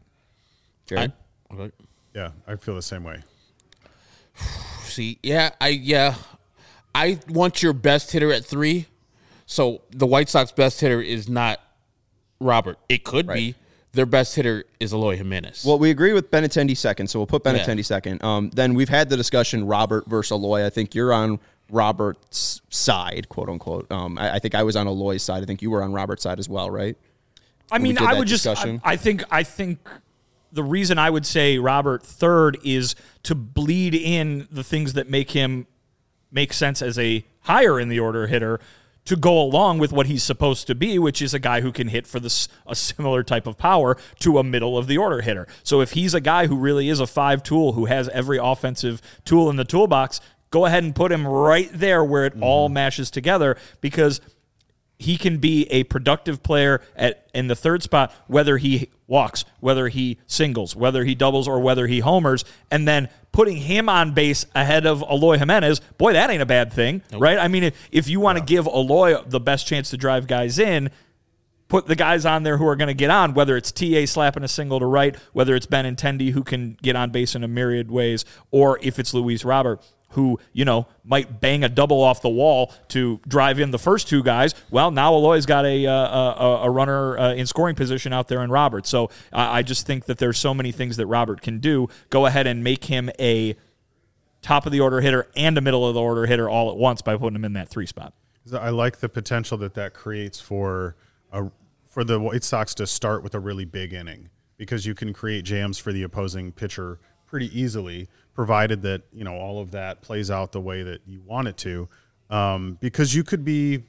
I, okay. Yeah, I feel the same way. See, yeah, I yeah. I want your best hitter at three. So the White Sox best hitter is not Robert. It could right. be. Their best hitter is Eloy Jimenez. Well, we agree with Benintendi second, so we'll put Benintendi yeah. second. Um, then we've had the discussion Robert versus Eloy. I think you're on Robert's side, quote unquote. Um, I, I think I was on Eloy's side. I think you were on Robert's side as well, right? I mean, I would just. I, I think. I think the reason I would say Robert third is to bleed in the things that make him make sense as a higher in the order hitter, to go along with what he's supposed to be, which is a guy who can hit for this a similar type of power to a middle of the order hitter. So if he's a guy who really is a five tool, who has every offensive tool in the toolbox, go ahead and put him right there where it mm. all mashes together, because he can be a productive player at in the third spot, whether he walks, whether he singles, whether he doubles, or whether he homers, and then putting him on base ahead of Eloy Jimenez, boy, that ain't a bad thing, nope. right? I mean, if, if you want to yeah. give Eloy the best chance to drive guys in, put the guys on there who are going to get on, whether it's T A slapping a single to right, whether it's Benintendi who can get on base in a myriad ways, or if it's Luis Robert, who, you know, might bang a double off the wall to drive in the first two guys. Well, now Eloy's got a uh, a, a runner uh, in scoring position out there in Robert. So uh, I just think that there's so many things that Robert can do. Go ahead and make him a top of the order hitter and a middle of the order hitter all at once by putting him in that three spot. I like the potential that that creates for a, for the White Sox to start with a really big inning, because you can create jams for the opposing pitcher pretty easily, provided that, you know, all of that plays out the way that you want it to, um, because you could be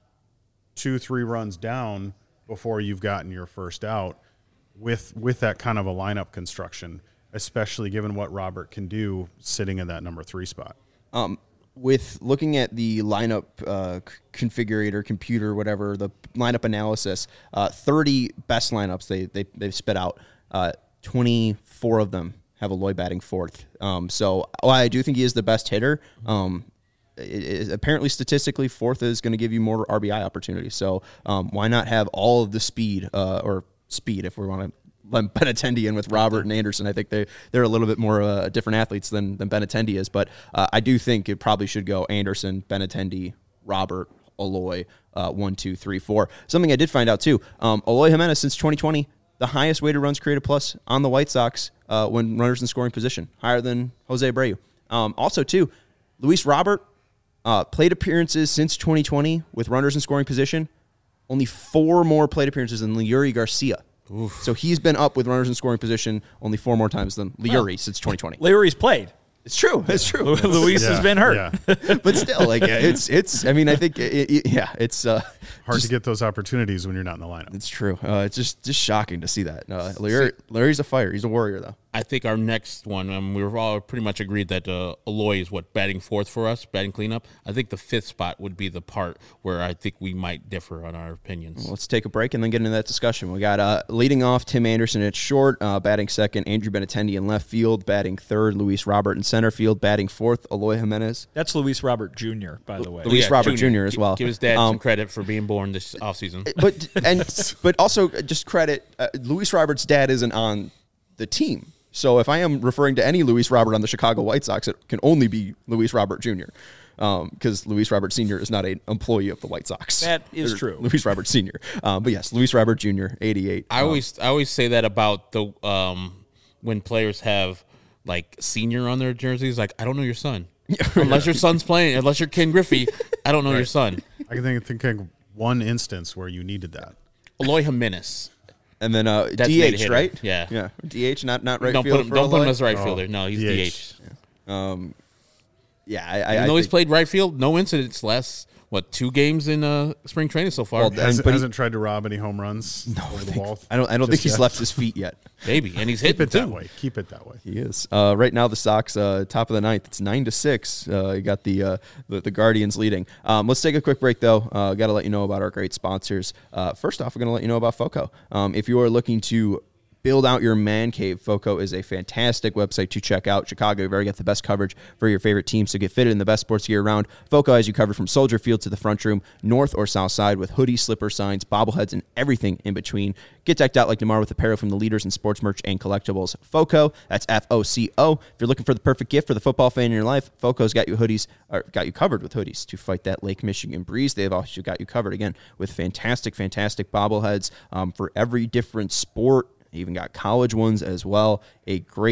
two, three runs down before you've gotten your first out with with that kind of a lineup construction, especially given what Robert can do sitting in that number three spot. Um, with looking at the lineup uh, configurator, computer, whatever, the lineup analysis, uh, thirty best lineups they they they've spit out, uh, twenty-four of them have Eloy batting fourth. Um, so while I do think he is the best hitter, um, it, it, apparently statistically fourth is going to give you more R B I opportunities. So um, why not have all of the speed uh, or speed if we want to let Benintendi in with Robert and Anderson. I think they, they're a little bit more uh, different athletes than, than Benintendi is. But uh, I do think it probably should go Anderson, Benintendi, Robert, Eloy, uh, one, two, three, four. Something I did find out too, um, Eloy Jimenez since twenty twenty, the highest weighted runs created plus on the White Sox uh, when runners in scoring position, higher than Jose Abreu. Um, also, too, Luis Robert, uh, plate appearances since twenty twenty with runners in scoring position, only four more plate appearances than Leury Garcia. Oof. So he's been up with runners in scoring position only four more times than Leury oh. since twenty twenty. Leury's played. It's true. It's true. Luis yeah, has been hurt, yeah. But still, like it's it's. I mean, I think it, it, yeah, it's uh, hard just, to get those opportunities when you're not in the lineup. It's true. Uh, it's just just shocking to see that. Uh, Leury, Leury's a fighter. He's a warrior, though. I think our next one, um, we were all pretty much agreed that uh, Eloy is what, batting fourth for us, batting cleanup. I think the fifth spot would be the part where I think we might differ on our opinions. Well, let's take a break and then get into that discussion. We got uh, leading off Tim Anderson at short, uh, batting second, Andrew Benintendi in left field, batting third, Luis Robert in center field, batting fourth, Eloy Jimenez. That's Luis Robert Junior, by the way. Luis yeah, Robert Junior, Junior as well. Give his dad um, some credit for being born this offseason. But and but also just credit, uh, Luis Robert's dad isn't on the team. So if I am referring to any Luis Robert on the Chicago White Sox, it can only be Luis Robert Junior Because um, Luis Robert Senior is not an employee of the White Sox. That is true. Luis Robert Senior Um, but yes, Luis Robert Junior, eighty-eight. I um, always I always say that about the um, when players have like senior on their jerseys. Like, I don't know your son. Unless your son's playing, unless you're Ken Griffey, I don't know right. your son. I can think, think of one instance where you needed that. Eloy Jimenez. And then uh, D H, right? Yeah. Yeah. D H, not not right don't field put him, for Don't Eloy? put him as right fielder. Oh, no, he's D H. D H. Yeah. Um, yeah, I, I, Even I though he's think, played right field, no incidents last, what, two games in uh, spring training so far. Well, hasn't, but hasn't he, tried to rob any home runs no, over the ball. I don't I don't think he's yet. left his feet yet. Maybe, and he's Keep hitting it too. that way. Keep it that way. He is. Uh, right now, the Sox, uh, top of the ninth. It's nine to six. Uh, you got the, uh, the the Guardians leading. Um, let's take a quick break, though. Uh, got to let you know about our great sponsors. Uh, first off, we're going to let you know about FOCO. Um, if you are looking to build out your man cave, FOCO is a fantastic website to check out. Chicago, you've already got the best coverage for your favorite teams to get fitted in the best sports gear around. FOCO has you covered from Soldier Field to the front room, north or south side, with hoodies, slipper signs, bobbleheads, and everything in between. Get decked out like DeMar with apparel from the leaders in sports merch and collectibles. FOCO, that's F O C O. If you're looking for the perfect gift for the football fan in your life, FOCO's got you hoodies, or got you covered with hoodies to fight that Lake Michigan breeze. They've also got you covered, again, with fantastic, fantastic bobbleheads um, for every different sport. Even got college ones as well. A great,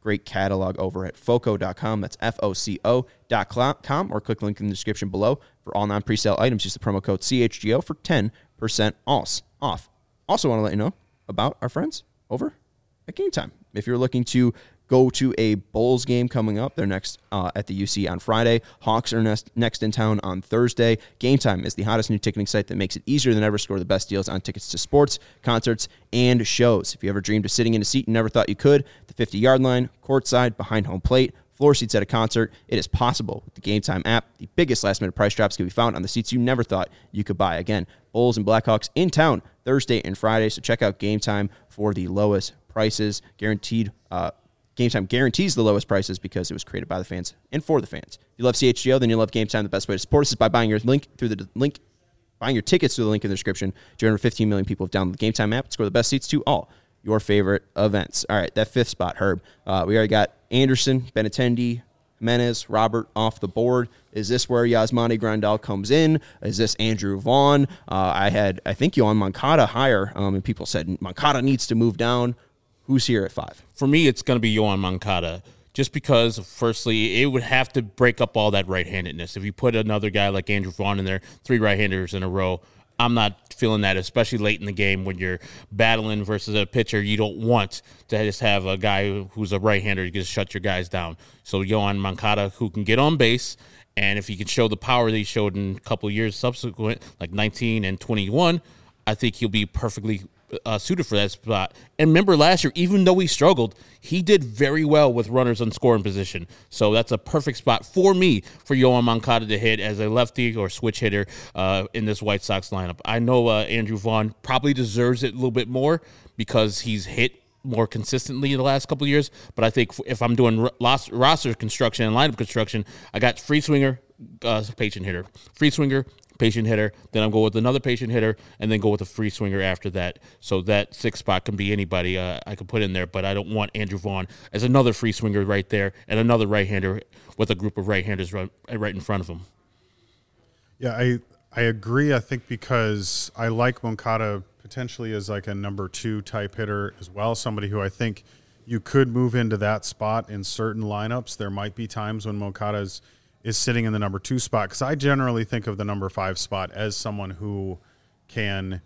great catalog over at foco dot com. That's F O C O dot com, or click the link in the description below. For all non-presale items, use the promo code C H G O for ten percent off. Also want to let you know about our friends over at Game Time. If you're looking to go to a Bulls game coming up, they're next uh, at the U C on Friday. Hawks are next, next in town on Thursday. Game Time is the hottest new ticketing site that makes it easier than ever to score the best deals on tickets to sports, concerts, and shows. If you ever dreamed of sitting in a seat you never thought you could, the fifty-yard line, courtside, behind home plate, floor seats at a concert, it is possible with the Game Time app. The biggest last-minute price drops can be found on the seats you never thought you could buy. Again, Bulls and Blackhawks in town Thursday and Friday, so check out Game Time for the lowest prices. Guaranteed uh, Game Time guarantees the lowest prices because it was created by the fans and for the fans. If you love C H G O, then you love Game Time. The best way to support us is by buying your link through the link, buying your tickets through the link in the description. two hundred fifteen million people have downloaded the Game Time app to score the best seats to all your favorite events. All right, that fifth spot, Herb. Uh, we already got Anderson, Benintendi, Jimenez, Robert off the board. Is this where Yasmani Grandal comes in? Is this Andrew Vaughn? Uh, I had, I think, Yohan Moncada higher, um, and people said Moncada needs to move down. Who's here at five? For me, it's going to be Yohan Moncada, just because, firstly, it would have to break up all that right-handedness. If you put another guy like Andrew Vaughn in there, three right-handers in a row, I'm not feeling that, especially late in the game when you're battling versus a pitcher. You don't want to just have a guy who's a right-hander to just shut your guys down. So Yohan Moncada, who can get on base, and if he can show the power that he showed in a couple of years subsequent, like nineteen and twenty-one, I think he'll be perfectly Uh, suited for that spot. And remember last year, even though he struggled, he did very well with runners on scoring position. So that's a perfect spot for me for Yohan Moncada to hit as a lefty or switch hitter uh, in this White Sox lineup. I know uh, Andrew Vaughn probably deserves it a little bit more because he's hit more consistently in the last couple of years. But I think if I'm doing roster construction and lineup construction, I got free swinger, uh, patient hitter, free swinger, patient hitter, then I'll go with another patient hitter, and then go with a free swinger after that. So that sixth spot can be anybody uh, I can put in there, but I don't want Andrew Vaughn as another free swinger right there and another right-hander with a group of right-handers right, right in front of him. Yeah, I I agree. I think because I like Moncada potentially as like a number two type hitter as well, somebody who I think you could move into that spot in certain lineups. There might be times when Moncada's is sitting in the number two spot, because I generally think of the number five spot as someone who can,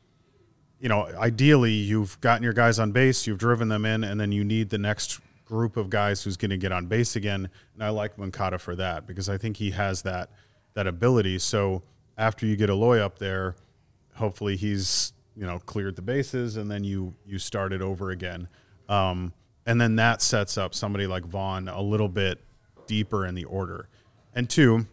you know, ideally you've gotten your guys on base, you've driven them in, and then you need the next group of guys who's going to get on base again. And I like Moncada for that because I think he has that that ability. So after you get Eloy up there, hopefully he's, you know, cleared the bases, and then you you start it over again. Um, and then that sets up somebody like Vaughn a little bit deeper in the order. And two,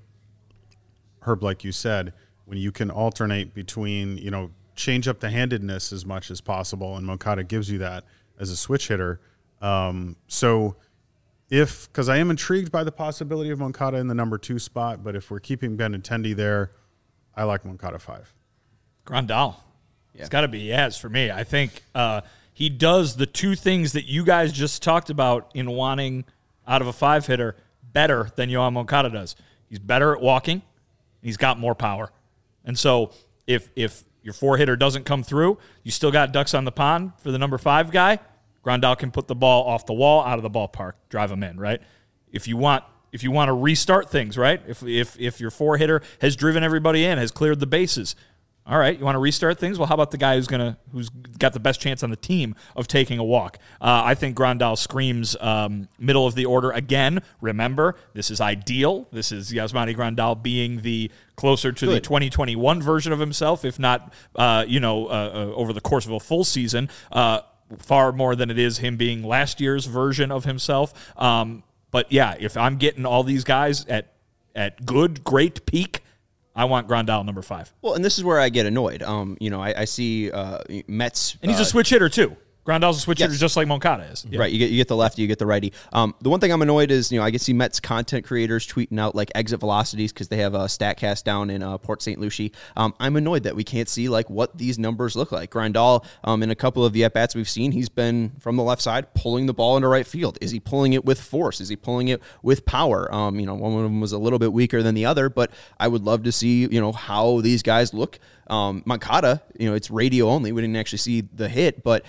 Herb, like you said, when you can alternate between, you know, change up the handedness as much as possible, and Moncada gives you that as a switch hitter. Um, so if, because I am intrigued by the possibility of Moncada in the number two spot, but if we're keeping Benintendi there, I like Moncada five. Grandal. Yeah. It's got to be yes for me. I think uh, he does the two things that you guys just talked about in wanting out of a five hitter better than Yohan Moncada does. He's better at walking. He's got more power. And so if if your four hitter doesn't come through, you still got ducks on the pond for the number five guy. Grandal can put the ball off the wall, out of the ballpark, drive him in, right? If you want if you want to restart things, right? If if if your four hitter has driven everybody in, has cleared the bases, all right, you want to restart things? Well, how about the guy who's gonna who's got the best chance on the team of taking a walk? Uh, I think Grandal screams um, middle of the order again. Remember, this is ideal. This is Yasmani Grandal being the closer to Good. the twenty twenty-one version of himself, if not, uh, you know, uh, uh, over the course of a full season, uh, far more than it is him being last year's version of himself. Um, but yeah, if I'm getting all these guys at at good, great peak, I want Grandal number five. Well, and this is where I get annoyed. Um, you know, I, I see uh, Mets, and he's uh, a switch hitter too. Grandal's a switch yes. hitter just like Moncada is. Yeah. Right, you get you get the lefty, you get the righty. Um, the one thing I'm annoyed is, you know, I can see Mets content creators tweeting out like exit velocities because they have a StatCast down in uh, Port Saint Lucie. Um, I'm annoyed that we can't see like what these numbers look like. Grandal, um, in a couple of the at bats we've seen, he's been from the left side pulling the ball into right field. Is he pulling it with force? Is he pulling it with power? Um, you know, one of them was a little bit weaker than the other, but I would love to see, you know, how these guys look. Um, Moncada, you know, it's radio only. We didn't actually see the hit, but Karen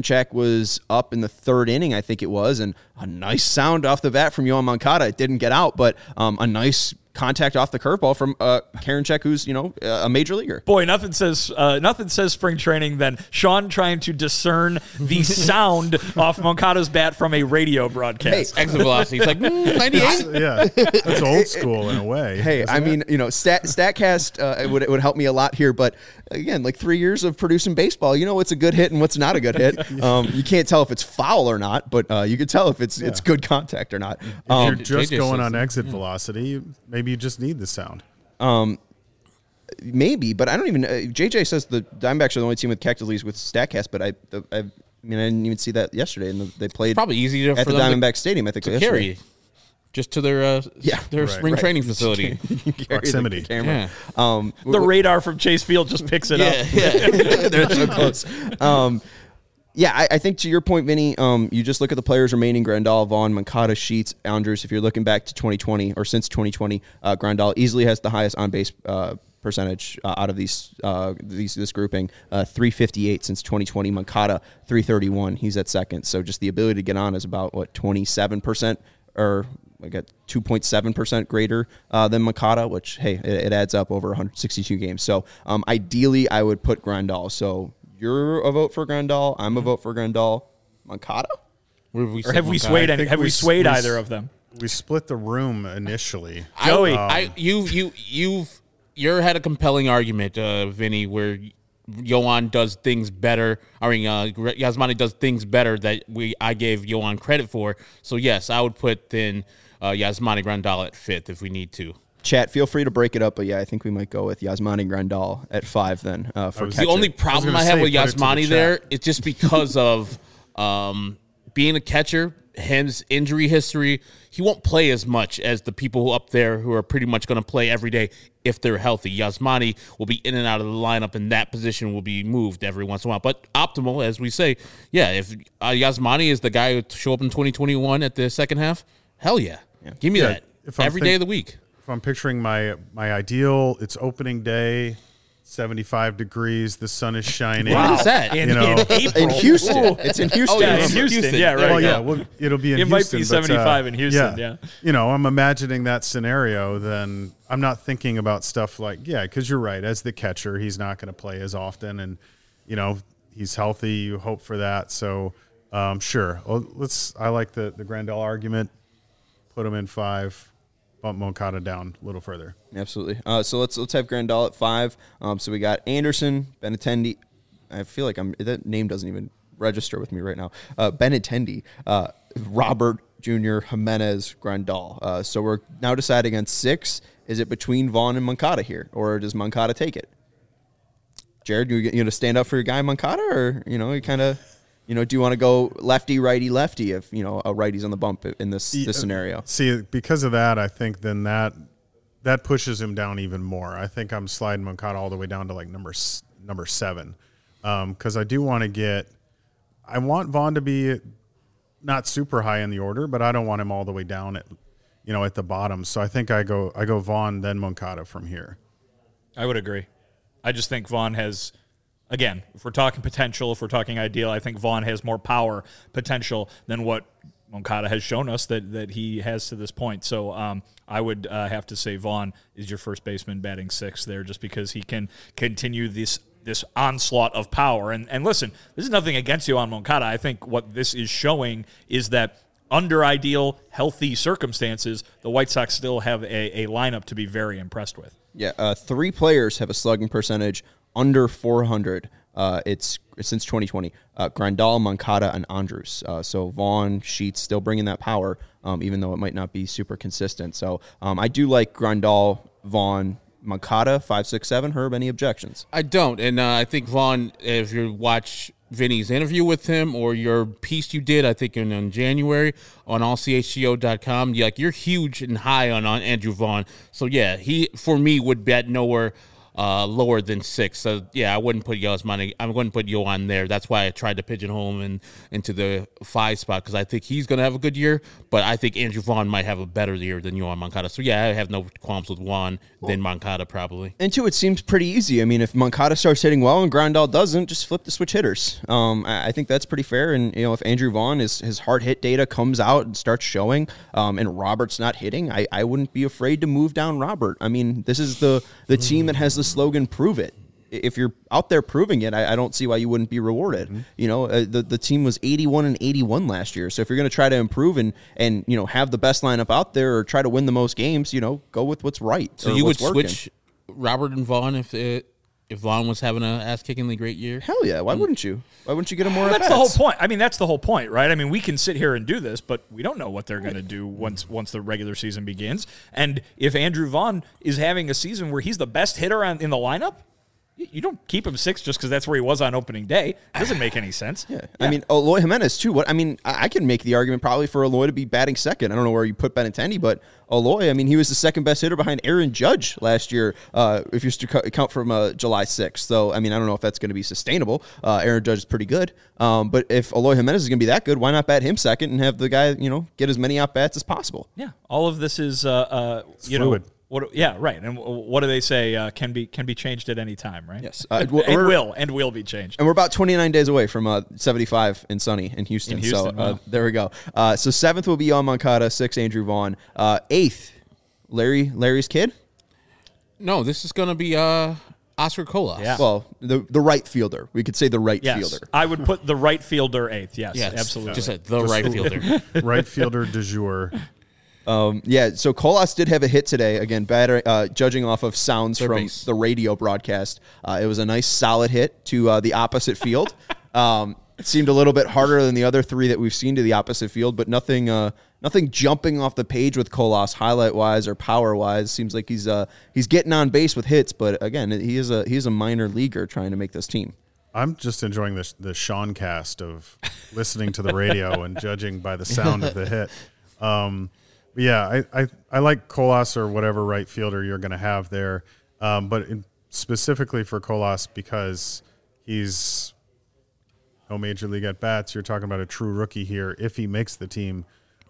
Karinchak was up in the third inning, I think it was, and a nice sound off the bat from Yoan Moncada. It didn't get out, but um, a nice contact off the curveball from uh, Karinchak, who's, you know, a major leaguer. Boy, nothing says uh, nothing says spring training than Sean trying to discern the sound off Moncada's bat from a radio broadcast. Hey, exit velocity. He's like, mm, ninety-eight. Yeah, that's old school in a way. Hey, I it? mean, you know, Stat, StatCast uh, it would it would help me a lot here, but again, like three years of producing baseball, you know what's a good hit and what's not a good hit. Um, you can't tell if it's foul or not, but uh, you can tell if it's yeah. it's good contact or not. If Um, you're just J J going says on that. exit velocity, maybe you just need the sound. Um, maybe, but I don't even. Uh, J J says the Diamondbacks are the only team with catch leads with Statcast, but I, the, I, I mean, I didn't even see that yesterday, and they played Probably easier at for the them Diamondback to, Stadium. I think to yesterday. carry just to their uh, Yeah. their Right. spring Right. training facility. Carry the Proximity. camera. Yeah. Um, The radar from Chase Field just picks it yeah, up. yeah. they're so close. Um, yeah, I, I think to your point, Vinny, um, you just look at the players remaining: Grandal, Vaughn, Moncada, Sheets, Andrews. If you're looking back to twenty twenty or since twenty twenty, uh, Grandal easily has the highest on base uh, percentage uh, out of these uh, these this grouping. Uh, three fifty-eight since twenty twenty. Moncada three thirty-one. He's at second. So just the ability to get on is about what twenty-seven percent or. I got two point seven percent greater uh, than Moncada, which, hey, it, it adds up over one hundred sixty-two games. So um, ideally, I would put Grandal. So you're a vote for Grandal. I'm a vote for Grandal. Moncada? Where have we, Or have we Moncada? swayed I any, think have we, we- swayed we- either of them? We split the room initially. Joey. I, I, you, you, you've, you had a compelling argument, uh, Vinny, where Yoan does things better. I mean, uh, Yasmani does things better that we I gave Yoan credit for. So yes, I would put then uh, Yasmani Grandal at fifth if we need to. Chat, feel free to break it up, but yeah, I think we might go with Yasmani Grandal at five then uh, for was- catcher. The only problem gonna I, have say, with put it to the Yasmani chat. there is just because of um, being a catcher, his injury history. He won't play as much as the people up there who are pretty much going to play every day if they're healthy. Yasmani will be in and out of the lineup, and that position will be moved every once in a while. But optimal, as we say, yeah, if uh, Yasmani is the guy who show up in twenty twenty-one at the second half, hell yeah. Give me Yeah, that if I'm every think- day of the week. If I'm picturing my my ideal, it's opening day, seventy-five degrees, the sun is shining. Wow. What is that? In, You know, in April. in Houston. It's in Houston. Oh, yeah, Yeah, in it's Houston. Houston. Yeah, right. There Well, you yeah, go. well, it'll be in It might Houston. be but, uh, seventy-five in Houston, yeah. You know, I'm imagining that scenario, then I'm not thinking about stuff like, yeah, because you're right. As the catcher, he's not going to play as often. And, you know, he's healthy. You hope for that. So, um, sure. Well, let's, I like the, the Grandal argument. Put him in five, bump Moncada down a little further. Absolutely. Uh, so let's let's have Grandal at five. Um, so we got Anderson, Benintendi. I feel like I'm that name doesn't even register with me right now. Uh, Benintendi, uh, Robert Junior, Jimenez, Grandal. Uh, so we're now deciding on six. Is it between Vaughn and Moncada here, or does Moncada take it? Jared, you you gonna stand up for your guy Moncada, or you know you kind of. You know, do you want to go lefty, righty, lefty if, you know, a righty's on the bump in this Yeah, this scenario? See, because of that, I think then that that pushes him down even more. I think I'm sliding Moncada all the way down to like number s- number seven, because I do want to get. I want Vaughn to be not super high in the order, but I don't want him all the way down at, you know, at the bottom. So I think I go I go Vaughn then Moncada from here. I would agree. I just think Vaughn has, again, if we're talking potential, if we're talking ideal, I think Vaughn has more power potential than what Moncada has shown us that, that he has to this point. So um, I would uh, have to say Vaughn is your first baseman batting sixth there just because he can continue this this onslaught of power. And, and listen, this is nothing against you on Moncada. I think what this is showing is that under ideal, healthy circumstances, the White Sox still have a, a lineup to be very impressed with. Yeah, uh, three players have a slugging percentage under four hundred. Uh, it's since twenty twenty. Uh, Grandal, Moncada, and Andrews. Uh, so Vaughn, Sheets still bringing that power, um, even though it might not be super consistent. So um, I do like Grandal, Vaughn, Moncada, five, six, seven. Herb, any objections? I don't, and uh, I think Vaughn, if you watch Vinny's interview with him or your piece you did, I think in, in January on all c h g o dot com, you like you're huge and high on, on Andrew Vaughn. So yeah, he for me would bet nowhere uh, lower than six. So yeah, I wouldn't put Yasmani. I wouldn't put Yohan there. That's why I tried to pigeonhole him in, into the five spot because I think he's going to have a good year. But I think Andrew Vaughn might have a better year than Yohan Moncada. So yeah, I have no qualms with Juan well, than Moncada probably. And two, it seems pretty easy. I mean, if Moncada starts hitting well and Grandal doesn't, just flip the switch hitters. Um, I, I think that's pretty fair. And you know, if Andrew Vaughn is his hard hit data comes out and starts showing, um, and Robert's not hitting, I, I wouldn't be afraid to move down Robert. I mean, this is the the team that has the slogan "Prove It." If you're out there proving it, I, I don't see why you wouldn't be rewarded. Mm-hmm. You know, uh, the the team was eighty-one and eighty-one last year. So if you're going to try to improve and and you know have the best lineup out there or try to win the most games, you know, go with what's right. So you would working. switch Robert and Vaughn if it, if Vaughn was having an ass-kickingly great year? Hell yeah! Why mm. wouldn't you? Why wouldn't you get him more? That's the whole point. I mean, that's the whole point, right? I mean, we can sit here and do this, but we don't know what they're going to do once once the regular season begins. And if Andrew Vaughn is having a season where he's the best hitter on, in the lineup, you don't keep him six just because that's where he was on opening day. It doesn't make any sense. Yeah. yeah. I mean, Eloy Jimenez, too. What I mean, I can make the argument probably for Eloy to be batting second. I don't know where you put Benintendi, but Eloy, I mean, he was the second best hitter behind Aaron Judge last year, uh, if you count from uh, July sixth. So, I mean, I don't know if that's going to be sustainable. Uh, Aaron Judge is pretty good. Um, but if Eloy Jimenez is going to be that good, why not bat him second and have the guy, you know, get as many at-bats as possible? Yeah. All of this is, uh, uh, you fluid. know. What, yeah, right. And what do they say? Uh, can be can be changed at any time, right? Yes, uh, and will and will be changed. And we're about twenty-nine days away from uh, seventy-five and sunny in Houston. In Houston, so uh, wow. there we go. Uh, so seventh will be Yohan Moncada, sixth Andrew Vaughn, uh, eighth Larry Larry's kid. No, this is going to be uh, Oscar Colas. Yeah. Well, the the right fielder. We could say the right yes. fielder. I would put the right fielder eighth. Yes, yes. absolutely. Just a, the Just right fielder. Right fielder de jour. Um, yeah, so Colas did have a hit today. Again, batter, uh, judging off of sounds Third from base. the radio broadcast. Uh, it was a nice solid hit to uh, the opposite field. Um, it seemed a little bit harder than the other three that we've seen to the opposite field, but nothing uh, nothing jumping off the page with Colas highlight-wise or power-wise. Seems like he's uh, he's getting on base with hits, but again, he is a he is a minor leaguer trying to make this team. I'm just enjoying the, the Sean cast of listening to the radio and judging by the sound of the hit. Um Yeah, I, I, I like Colas or whatever right fielder you're going to have there, um, but in, specifically for Colas because he's no major league at bats. You're talking about a true rookie here if he makes the team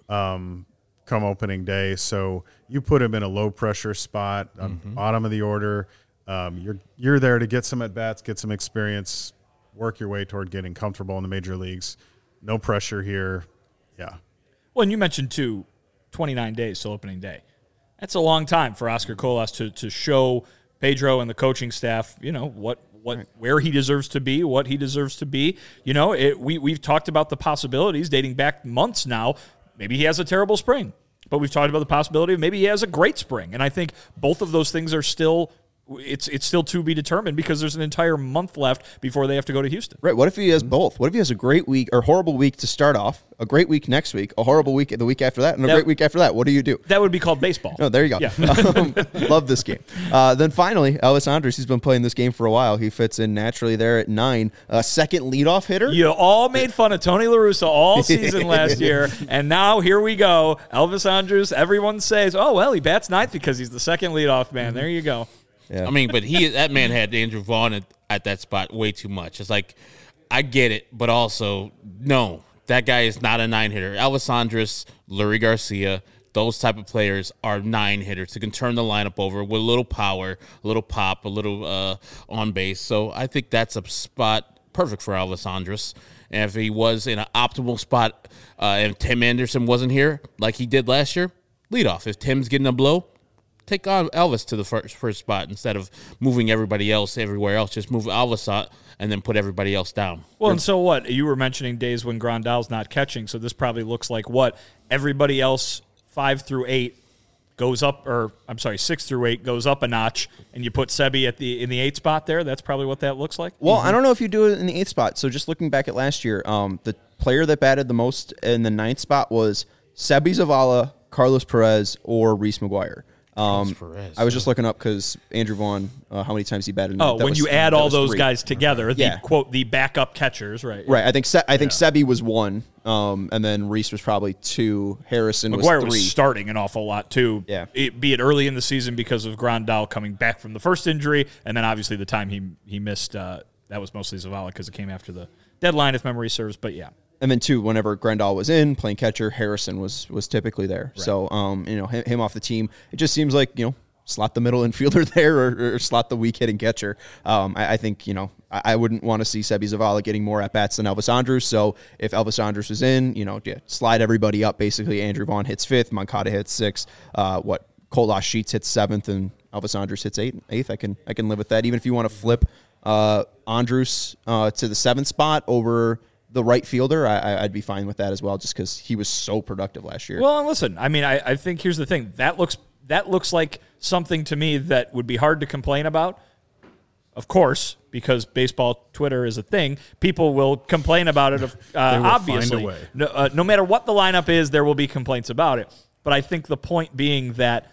um, come opening day. So you put him in a low pressure spot, mm-hmm. bottom of the order. Um, you're you're there to get some at bats, get some experience, work your way toward getting comfortable in the major leagues. No pressure here. Yeah. Well, and you mentioned too. twenty-nine days till opening day. That's a long time for Oscar Colas to to show Pedro and the coaching staff, you know, what what right. where he deserves to be, what he deserves to be. You know, it, we we've talked about the possibilities dating back months now. Maybe he has a terrible spring, but we've talked about the possibility of maybe he has a great spring. And I think both of those things are still It's it's still to be determined because there's an entire month left before they have to go to Houston. Right. What if he has both? What if he has a great week or horrible week to start off, a great week next week, a horrible week the week after that, and a that, great week after that? What do you do? That would be called baseball. Oh, there you go. Yeah. um, love this game. Uh, then finally, Elvis Andrus, he's been playing this game for a while. He fits in naturally there at nine. Uh, second leadoff hitter. You all made fun of Tony La Russa all season last year, and now here we go. Elvis Andrus, everyone says, oh, well, he bats ninth because he's the second leadoff man. There you go. Yeah. I mean, but he that man had Andrew Vaughn at, at that spot way too much. It's like, I get it, but also, no, that guy is not a nine-hitter. Elvis Andrus, Lurie Garcia, those type of players are nine-hitters who can turn the lineup over with a little power, a little pop, a little uh, on base. So I think that's a spot perfect for Elvis Andrus. And if he was in an optimal spot uh, and Tim Anderson wasn't here like he did last year, lead off. If Tim's getting a blow, take on Elvis to the first first spot instead of moving everybody else everywhere else. Just move Elvis out and then put everybody else down. Well, and so what? You were mentioning days when Grandal's not catching, so this probably looks like what? Everybody else, five through eight, goes up, or I'm sorry, six through eight goes up a notch, and you put Sebi at the in the eighth spot there. That's probably what that looks like. Well, mm-hmm. I don't know if you do it in the eighth spot. So just looking back at last year, um, the player that batted the most in the ninth spot was Sebi Zavala, Carlos Perez, or Reese McGuire. Um, Perez, I was yeah. just looking up because Andrew Vaughn, uh, how many times he batted? Oh, that when was, you add that all was those three. guys together, the Yeah. quote the backup catchers, right? Right. I think Se- I think Sebi was one, um, and then Reese was probably two. Harrison McGuire was three. was starting an awful lot too. Yeah. It, be it early in the season because of Grandal coming back from the first injury, and then obviously the time he he missed. Uh, that was mostly Zavala because it came after the deadline, if memory serves. But yeah. And then two, whenever Grandal was in playing catcher, Harrison was was typically there. Right. So um, you know him, him off the team. It just seems like you know. slot the middle infielder there or, or slot the weak hitting catcher. Um, I, I think, you know, I, I wouldn't want to see Sebi Zavala getting more at-bats than Elvis Andrus. So if Elvis Andrus was in, you know, yeah, slide everybody up. Basically, Andrew Vaughn hits fifth, Moncada hits sixth, uh, what, Kolash Sheets hits seventh, and Elvis Andrus hits eighth. eighth. I can I can live with that. Even if you want to flip uh, Andrus uh, to the seventh spot over the right fielder, I, I'd be fine with that as well, just because he was so productive last year. Well, listen, I mean, I, I think here's the thing. That looks that looks like something to me that would be hard to complain about. Of course, because baseball Twitter is a thing, people will complain about it. Uh, They will obviously, find a way. No, uh, no matter what the lineup is, there will be complaints about it. But I think the point being that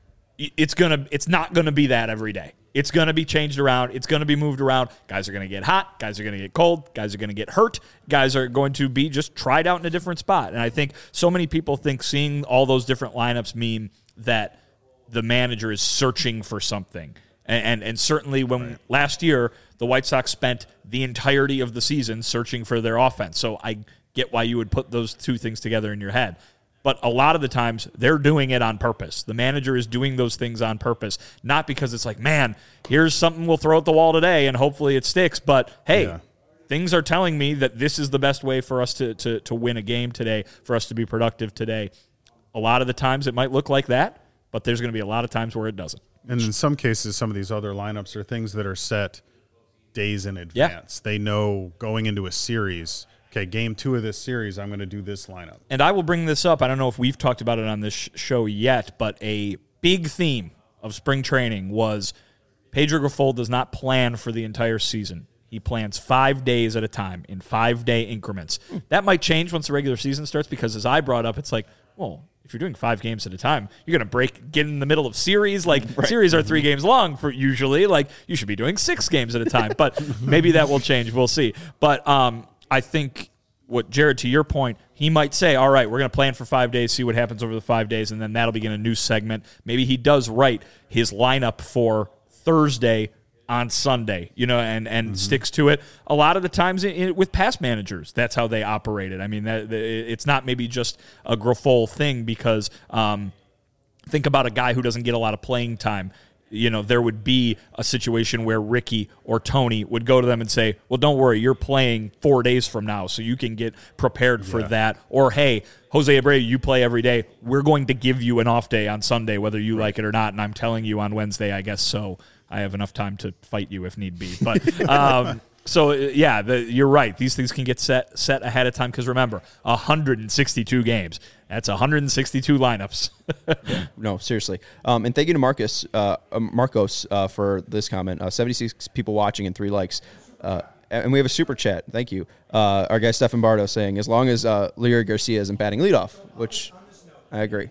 it's gonna, it's not gonna be that every day. It's going to be changed around. It's going to be moved around. Guys are going to get hot. Guys are going to get cold. Guys are going to get hurt. Guys are going to be just tried out in a different spot. And I think so many people think seeing all those different lineups mean that the manager is searching for something. And and, and certainly when right. last year, the White Sox spent the entirety of the season searching for their offense. So I get why you would put those two things together in your head. But a lot of the times, they're doing it on purpose. The manager is doing those things on purpose, not because it's like, man, here's something we'll throw at the wall today, and hopefully it sticks. But, hey, yeah. things are telling me that this is the best way for us to, to, to win a game today, for us to be productive today. A lot of the times it might look like that, but there's going to be a lot of times where it doesn't. And in some cases, some of these other lineups are things that are set days in advance. Yeah. They know going into a series – okay, game two of this series, I'm going to do this lineup. And I will bring this up. I don't know if we've talked about it on this sh- show yet, but a big theme of spring training was Pedro Grifol does not plan for the entire season. He plans five days at a time in five-day increments. That might change once the regular season starts because, as I brought up, it's like, well, if you're doing five games at a time, you're going to break, get in the middle of series. Like, right. series are three games long for usually. Like, you should be doing six games at a time. But maybe that will change. We'll see. But, um, I think what Jared, to your point, he might say, all right, we're going to plan for five days, see what happens over the five days, and then that'll begin a new segment. Maybe he does write his lineup for Thursday on Sunday, you know, and, and mm-hmm. sticks to it. A lot of the times in, in, with past managers, that's how they operated. I mean, that, it's not maybe just a Grifol thing because um, think about a guy who doesn't get a lot of playing time. You know, there would be a situation where Ricky or Tony would go to them and say, well, don't worry, you're playing four days from now, so you can get prepared for yeah. that. Or, hey, Jose Abreu, you play every day. We're going to give you an off day on Sunday, whether you right. like it or not, and I'm telling you on Wednesday, I guess so. I have enough time to fight you if need be. But um, so, yeah, the, you're right. These things can get set set ahead of time because, remember, one hundred sixty-two games. That's one hundred sixty-two lineups. yeah, no, seriously. Um, and thank you to Marcus, uh, Marcos uh, for this comment. Uh, seventy-six people watching and three likes. Uh, and we have a super chat. Thank you. Uh, our guy Stefan Bardo saying, as long as uh, Leury Garcia isn't batting leadoff, which I agree.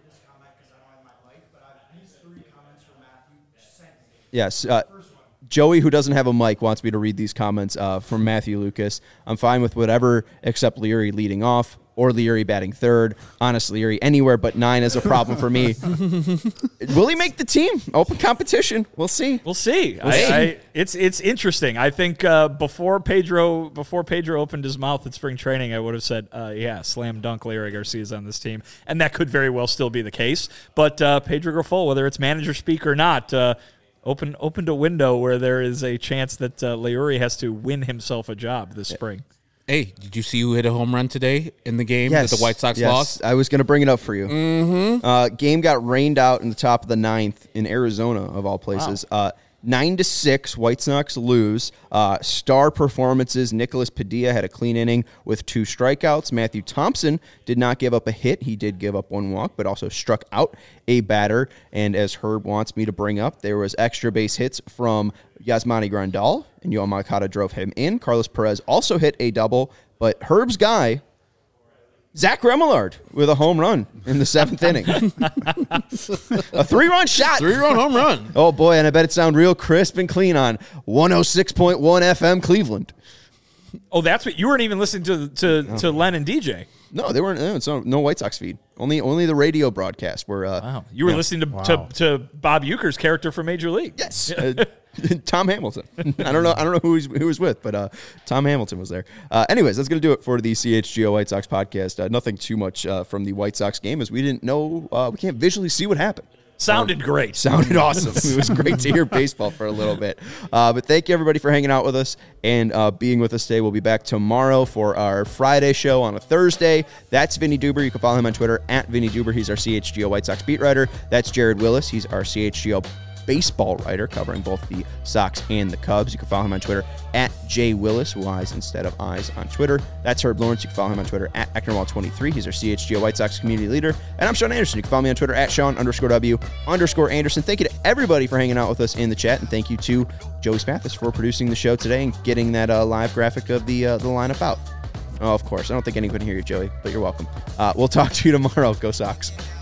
Yes. Uh, Joey, who doesn't have a mic, wants me to read these comments uh, from Matthew Lucas. I'm fine with whatever except Leury leading off or Leury batting third. Honestly, Leury anywhere but nine is a problem for me. Will he make the team? Open competition. We'll see. We'll see. We'll I, see. I, it's it's interesting. I think uh, before Pedro before Pedro opened his mouth at spring training, I would have said, uh, yeah, slam dunk Leury Garcia's on this team. And that could very well still be the case. But uh, Pedro Grifol, whether it's manager speak or not, uh, Open, opened a window where there is a chance that uh, Leury has to win himself a job this spring. Hey, did you see who hit a home run today in the game yes, that the White Sox yes. lost? I was going to bring it up for you. Mm-hmm. Uh, game got rained out in the top of the ninth in Arizona, of all places. Wow. Uh, Nine to six, White Sox lose. Uh, star performances. Nicholas Padilla had a clean inning with two strikeouts. Matthew Thompson did not give up a hit. He did give up one walk, but also struck out a batter. And as Herb wants me to bring up, there was extra base hits from Yasmani Grandal, and Yoan Moncada drove him in. Carlos Perez also hit a double, but Herb's guy, Zach Remillard with a home run in the seventh inning. A three-run shot. Three-run home run. Oh, boy, and I bet it sound real crisp and clean on one oh six point one F M Cleveland. Oh, that's what you weren't even listening to to, no. to Len and D J. No, they weren't. No, it's no, no White Sox feed. Only only the radio broadcast. Where uh, wow, you were yeah. listening to, wow. to to Bob Uecker's character from Major League. Yes, uh, Tom Hamilton. I don't know. I don't know who he's who was with, but uh, Tom Hamilton was there. Uh, anyways, that's gonna do it for the C H G O White Sox podcast. Uh, nothing too much uh, from the White Sox game, as we didn't know. Uh, we can't visually see what happened. Sounded um, great. Sounded awesome. It was great to hear baseball for a little bit. Uh, but thank you, everybody, for hanging out with us and uh, being with us today. We'll be back tomorrow for our Friday show on a Thursday. That's Vinny Duber. You can follow him on Twitter, at Vinny Duber. He's our C H G O White Sox beat writer. That's Jared Willis. He's our C H G O baseball writer, covering both the Sox and the Cubs. You can follow him on Twitter, at J Willis, Y's instead of I's on Twitter. That's Herb Lawrence. You can follow him on Twitter, at Ecknerwall twenty-three. He's our C H G O White Sox community leader. And I'm Sean Anderson. You can follow me on Twitter, at Sean underscore W underscore Anderson. Thank you to everybody for hanging out with us in the chat. And thank you to Joey Spathis for producing the show today and getting that uh, live graphic of the, uh, the lineup out. Oh, of course. I don't think anyone can hear you, Joey, but you're welcome. Uh, we'll talk to you tomorrow. Go Sox.